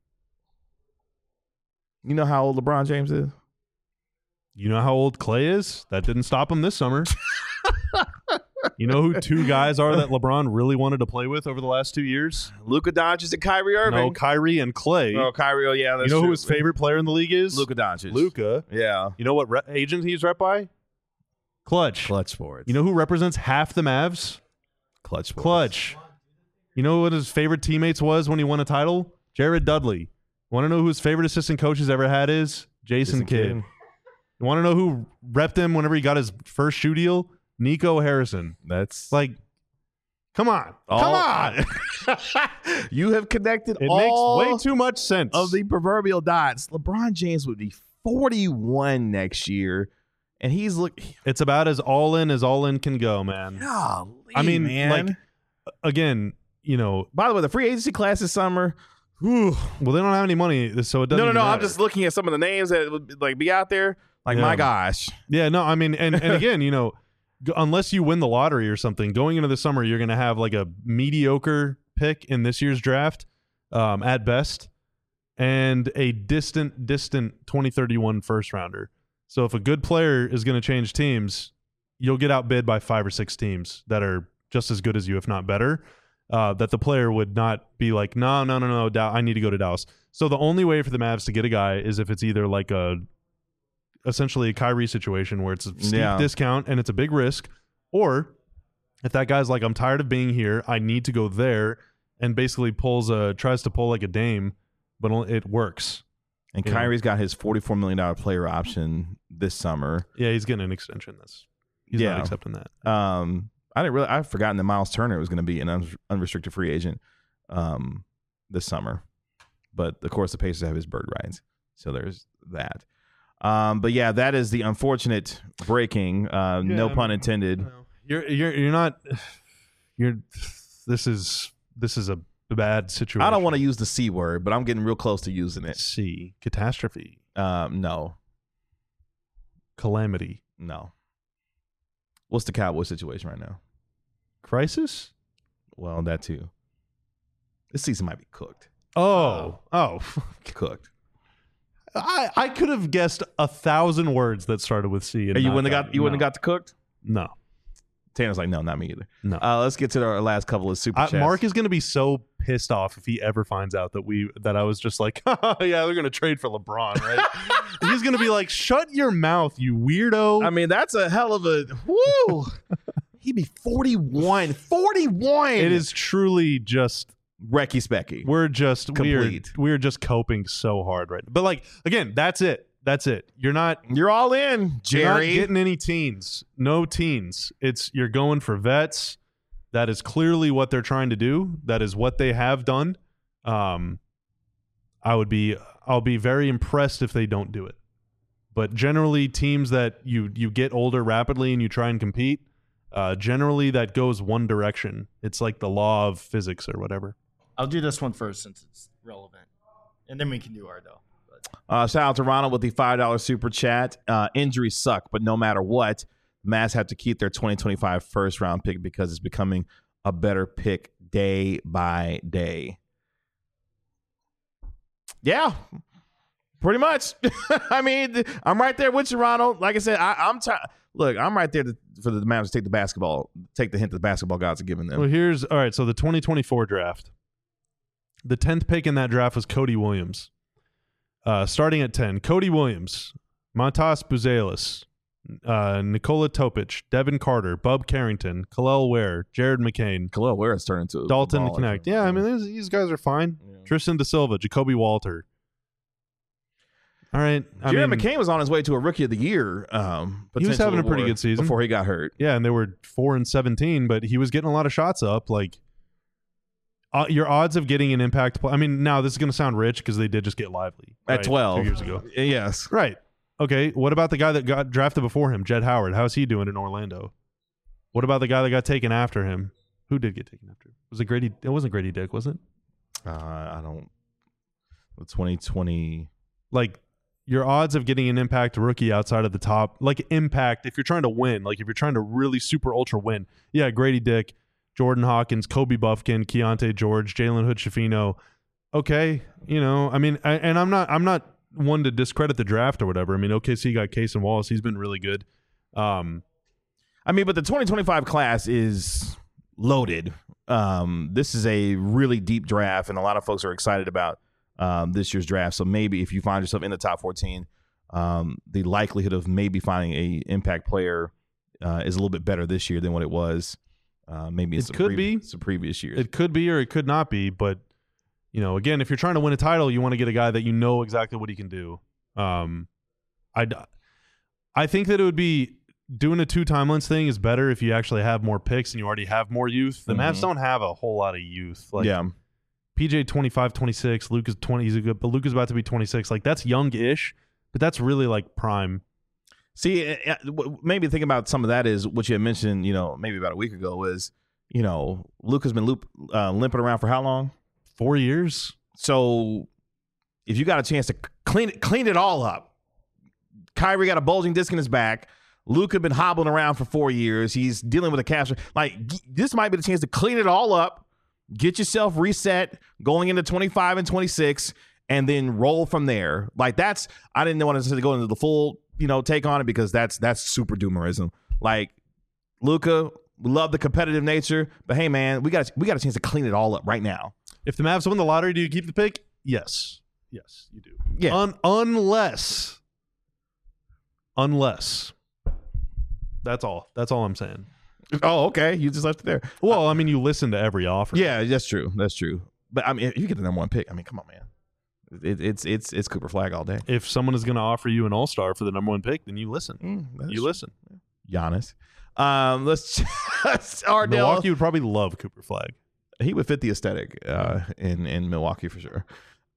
You know how old LeBron James is? You know how old Clay is? That didn't stop him this summer. You know who two guys are that LeBron really wanted to play with over the last two years? Luka Doncic and Kyrie Irving. No, Kyrie and Clay. Oh, Kyrie. Oh, yeah, that's you know true. who his favorite player in the league is? Luka Doncic. Luka. Yeah. You know what re- agent he's rep by? Clutch. Clutch Sports. You know who represents half the Mavs? Clutch Sports. Clutch. You know what his favorite teammates was when he won a title? Jared Dudley. Want to know who his favorite assistant coach he's ever had is? Jason, Jason Kidd. Kidd. You want to know who repped him whenever he got his first shoe deal? Nico Harrison. That's Like, come on. all- Come on. You have connected It all makes way too much sense. of the proverbial dots. LeBron James would be forty-one next year, and he's look. It's about as all in as all in can go, man. Golly, I mean, man. like, again, you know, By the way, the free agency class this summer. Whew. well, they don't have any money, so it doesn't No, no, even no. I'm matter. just looking at some of the names that would like be out there. Like, Yeah. my gosh. Yeah, no, I mean, and, and again, you know, g- unless you win the lottery or something, going into the summer, you're going to have like a mediocre pick in this year's draft um, at best and a distant, distant twenty thirty-one first rounder. So if a good player is going to change teams, you'll get outbid by five or six teams that are just as good as you, if not better. Uh, that the player would not be like, no, no, no, no, Dow- I need to go to Dallas. So the only way for the Mavs to get a guy is if it's either like a essentially a Kyrie situation where it's a steep Yeah. discount and it's a big risk, or if that guy's like, I'm tired of being here, I need to go there, and basically pulls a tries to pull like a Dame, but only- it works. And Yeah. Kyrie's got his forty-four million dollars player option this summer. Yeah, he's getting an extension. That's he's Yeah. not accepting that. Um, I didn't really. I've forgotten that Miles Turner was going to be an un- unrestricted free agent um, this summer, but of course the Pacers have his bird rights, so there's that. Um, but yeah, that is the unfortunate breaking. Uh, no Yeah, pun intended. You're you're you're not. You're. This is this is a bad situation. I don't want to use the C word, but I'm getting real close to using it. see catastrophe, Um, no, calamity, no. What's the Cowboys situation right now? crisis. Well, that too. This season might be cooked. Oh, oh. Cooked. I, I could have guessed a thousand words that started with C. And Hey, you not wouldn't have got. You wouldn't no. have got the cooked. No, Tanner's like, no, not me either. no. Uh, let's get to our last couple of super I, chats. Mark is going to be so pissed off if he ever finds out that we that I was just like, yeah, they're going to trade for LeBron, right? He's going to be like, shut your mouth, you weirdo. I mean, that's a hell of a woo. He'd be forty-one. forty-one. it is truly just Recky Specky. we're just Complete. we're we're just coping so hard right now. But like again, that's it. That's it. You're not You're all in, You're not Jerry. getting any teens. No teens. It's you're going for vets. That is clearly what they're trying to do. That is what they have done. Um, I would be I'll be very impressed if they don't do it. But generally, teams that you you get older rapidly and you try and compete, uh, generally that goes one direction. It's like the law of physics or whatever. I'll do this one first since it's relevant, and then we can do our though. But Uh, shout out to Ronald with the five dollars super chat. Uh, injuries suck, but no matter what, Mavs have to keep their twenty twenty-five first round pick because it's becoming a better pick day by day. Yeah, pretty much. I mean, I'm right there with you, Ronald. Like I said, I, I'm trying. Look, I'm right there to, for the Mavs to take the basketball, take the hint that the basketball gods are giving them. Well, here's all right. So the twenty twenty-four draft, the tenth pick in that draft was Cody Williams. Uh, starting at ten, Cody Williams, Montas Buzelis, uh, Nikola Topic, Devin Carter, Bub Carrington, Khalil Ware, Jared McCain, Khalil Ware is turning to Dalton a baller. Connect. Yeah, I mean these, these guys are fine. Yeah. Tristan Da Silva, Jacoby Walter. All right. I Jared mean, McCain was on his way to a Rookie of the Year. Um, He was having a pretty potential good season. before he got hurt. yeah, and they were four and seventeen, but he was getting a lot of shots up. Like, uh, your odds of getting an impact play. I mean, now this is going to sound rich because they did just get Lively At right, twelve. two years ago. Yes. Right. Okay. What about the guy that got drafted before him, Jed Howard? How's he doing in Orlando? What about the guy that got taken after him? Who did get taken after him? Was it Grady? It wasn't Grady Dick, was it? Uh, I don't. twenty twenty. Like, your odds of getting an impact rookie outside of the top, like impact, if you're trying to win, like if you're trying to really super ultra win, yeah, Grady Dick, Jordan Hawkins, Kobe Buffkin, Keontae George, Jalen Hood Schifino. Okay, you know, I mean, I, and I'm not, I'm not one to discredit the draft or whatever. I mean, O K C got Case and Wallace; he's been really good. Um, I mean, but the twenty twenty-five class is loaded. Um, this is a really deep draft, and a lot of folks are excited about um, this year's draft. So maybe if you find yourself in the top fourteen, um, the likelihood of maybe finding a impact player uh, is a little bit better this year than what it was. Uh, maybe It some could previ- be. some previous years. It could be or it could not be, but you know, again, if you're trying to win a title, you want to get a guy that you know exactly what he can do. Um, I, I think that it would be doing a two timelines thing is better if you actually have more picks and you already have more youth. The Mavs Mhm. don't have a whole lot of youth. Like yeah. P J twenty-five, twenty-six, Luke is twenty. He's a good, but Luke is about to be twenty-six. Like that's young-ish, but that's really like prime. See, uh, uh, w- maybe think about some of that is what you had mentioned, you know, maybe about a week ago is, you know, Luke has been loop, uh, limping around for how long? Four years. So if you got a chance to clean it, clean it all up, Kyrie got a bulging disc in his back. Luke had been hobbling around for four years. He's dealing with a calf. Like g- this might be the chance to clean it all up, get yourself reset going into twenty-five and twenty-six, and then roll from there. Like that's I didn't want to go into the full, you know, take on it because that's that's super doomerism. Like Luka, we love the competitive nature, but hey man, we got we got a chance to clean it all up right now. If the Mavs win the lottery, do you keep the pick? Yes. Yes, you do. Yeah. Un- unless, unless. That's all. That's all I'm saying. Oh, okay. You just left it there. Well, I mean, you listen to every offer. Yeah, that's true. That's true. But I mean, if you get the number one pick, I mean, come on, man. It, it's it's it's Cooper Flag all day. If someone is going to offer you an all star for the number one pick, then you listen. Mm, that's You listen. Giannis. Um, let's just Ardell. Milwaukee would probably love Cooper Flag. He would fit the aesthetic uh, in in Milwaukee for sure.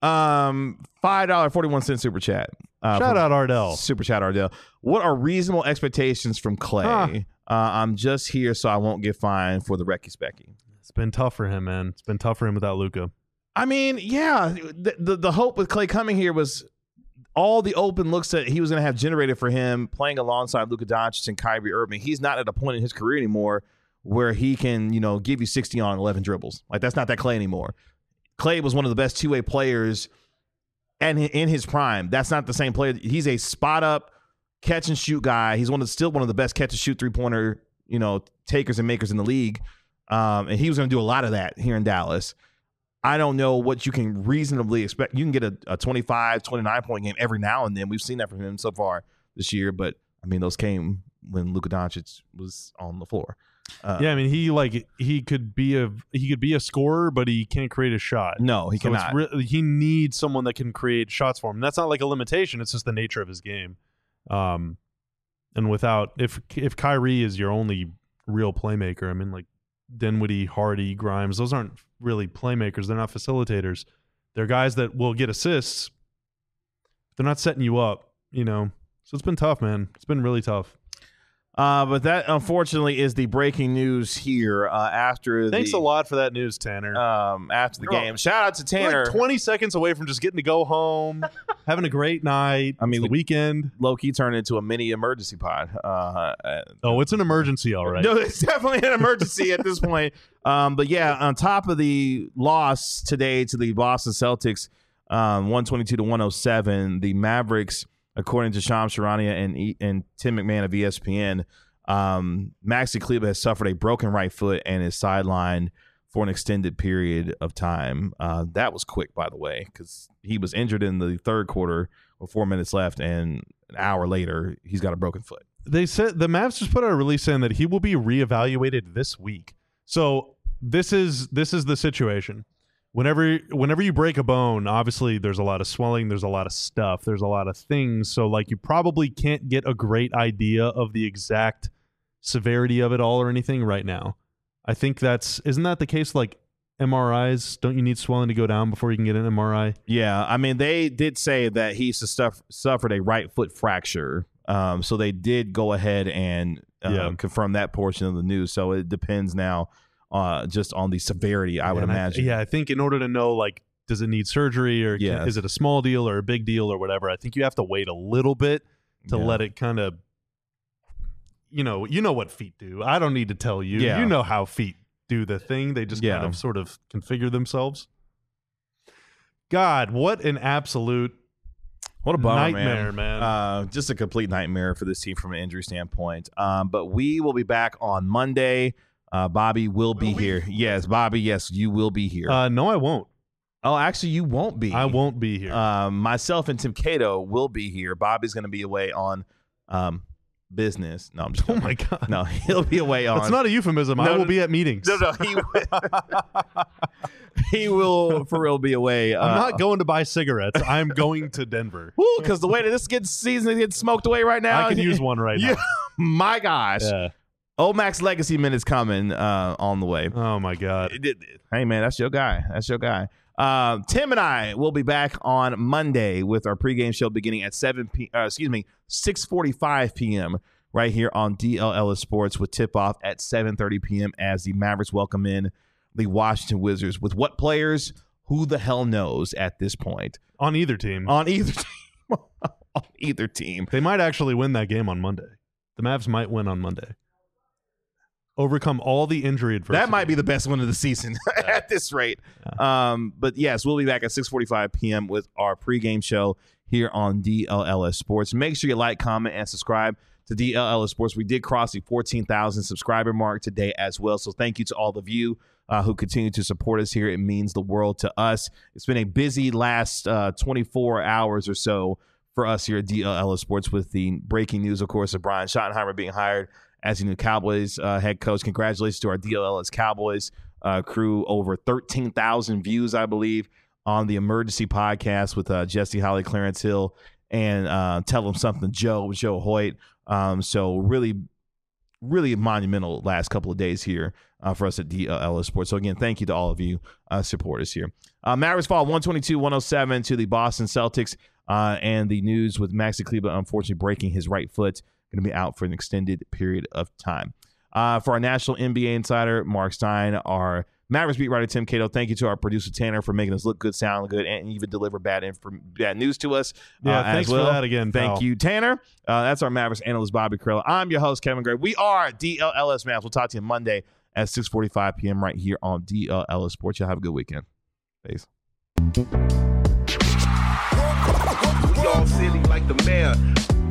Um, five dollar forty one cent super chat. Uh, Shout from out Ardell. Super chat Ardell. What are reasonable expectations from Clay? Huh. Uh, I'm just here so I won't get fined for the Recky Specky. It's been tough for him, man. It's been tough for him without Luka. I mean, yeah, the, the the hope with Clay coming here was all the open looks that he was going to have generated for him playing alongside Luka Doncic and Kyrie Irving. He's not at a point in his career anymore where he can, you know, give you sixty on eleven dribbles. Like that's not that Clay anymore. Clay was one of the best two-way players and in his prime. That's not the same player. He's a spot up catch and shoot guy. He's one of still one of the best catch and shoot three-pointer, you know, takers and makers in the league. Um, and he was going to do a lot of that here in Dallas. I don't know what you can reasonably expect. You can get a, a twenty-five, twenty-nine point game every now and then. We've seen that from him so far this year, but I mean, those came when Luka Doncic was on the floor. Uh, Yeah, I mean, he like he could be a he could be a scorer, but he can't create a shot. No, he So it's cannot. re- he needs someone that can create shots for him. And that's not like a limitation. It's just the nature of his game. Um, and without if if Kyrie is your only real playmaker, I mean, like Dinwiddie, Hardy, Grimes, those aren't really playmakers. They're not facilitators. They're guys that will get assists. They're not setting you up, you know. So it's been tough, man. It's been really tough. Uh, but that, unfortunately, is the breaking news here uh, after Thanks the, a lot for that news, Tanner. Um, after the You're game. Shout out to We're Tanner. like twenty seconds away from just getting to go home, having a great night. I mean, It's the we- weekend. Low-key turned into a mini emergency pod. Uh, uh, Oh, it's an emergency, all right. No, it's definitely an emergency at this point. Um, but yeah, on top of the loss today to the Boston Celtics, um, one twenty-two to one oh seven, the Mavericks, according to Shams Charania and e- and Tim McMahon of E S P N, um, Maxi Kleber has suffered a broken right foot and is sidelined for an extended period of time. Uh, that was quick, by the way, because he was injured in the third quarter with four minutes left, and an hour later, he's got a broken foot. They said the Mavs just put out a release saying that he will be reevaluated this week. So this is this is the situation. whenever whenever you break a bone, obviously there's a lot of swelling, there's a lot of stuff, there's a lot of things. So like you probably can't get a great idea of the exact severity of it all or anything right now. I think that's isn't that the case? Like M R Is, don't you need swelling to go down before you can get an M R I? Yeah, I mean they did say that he stuff, suffered a right foot fracture, um, so they did go ahead and uh, Yeah. confirm that portion of the news. So it depends now, uh, just on the severity. I would And imagine. yeah, I think in order to know, like, does it need surgery or can- Yes. is it a small deal or a big deal or whatever, I think you have to wait a little bit to Yeah. let it kind of, you know, you know what feet do. I don't need to tell you. Yeah. You know how feet do the thing. They just Yeah. kind of sort of configure themselves. God, what an absolute What a bummer, nightmare, man. Uh, just a complete nightmare for this team from an injury standpoint. Um, but we will be back on Monday. Uh, Bobby will be here. Yes, Bobby. Yes, you will be here. Uh, no, I won't. oh, actually, you won't be. I won't be here. Um, myself and Tim Cato will be here. Bobby's going to be away on um, business. No, I'm just oh my God. no. He'll be away on. That's not a euphemism. I No, will no, be at meetings. No, no. He he will for real be away. Uh, I'm not going to buy cigarettes. I'm going to Denver. because the way that this gets season gets smoked away right now. I can use one right Yeah. now. My gosh. Yeah. Omax Legacy Minute's coming uh, on the way. Oh my God. It- it- Hey, man, that's your guy. That's your guy. Uh, Tim and I will be back on Monday with our pregame show beginning at seven p. Uh, excuse me, six forty-five p.m. right here on D L Ellis Sports with tip-off at seven thirty p.m. as the Mavericks welcome in the Washington Wizards. With what players? Who the hell knows at this point? On either team. On either team. on either team. They might actually win that game on Monday. The Mavs might win on Monday. Overcome all the injury adversity. That might be the best one of the season at this rate. Um, but yes, we'll be back at six forty-five p.m. with our pregame show here on D L L S Sports. Make sure you like, comment, and subscribe to D L L S Sports. We did cross the fourteen thousand subscriber mark today as well. So thank you to all of you uh, who continue to support us here. It means the world to us. It's been a busy last uh, twenty-four hours or so for us here at D L L S Sports with the breaking news, of course, of Brian Schottenheimer being hired as the new Cowboys uh, head coach. Congratulations to our D L L S Cowboys uh, crew. Over thirteen thousand views, I believe, on the Emergency Podcast with uh, Jesse Holly, Clarence Hill, and uh, Tell Them Something Joe, Joe Hoyt. Um, so really, really monumental last couple of days here uh, for us at D L L S Sports. So again, thank you to all of you uh, supporters here. Uh, Mavericks fall one twenty-two one oh seven to the Boston Celtics. Uh, and the news with Maxi Kleber unfortunately breaking his right foot. Going to be out for an extended period of time. Uh, for our national N B A insider, Mark Stein, our Mavericks beat writer, Tim Cato, thank you to our producer, Tanner, for making us look good, sound good, and even deliver bad inf- bad news to us. Yeah, uh, thanks as well. for that again, Thank pal. you, Tanner. Uh, that's our Mavericks analyst, Bobby Carrillo. I'm your host, Kevin Gray. We are D L L S Mavs. We'll talk to you Monday at six forty-five p.m. right here on D L L S Sports. Y'all have a good weekend. Peace. Dog City like the mayor.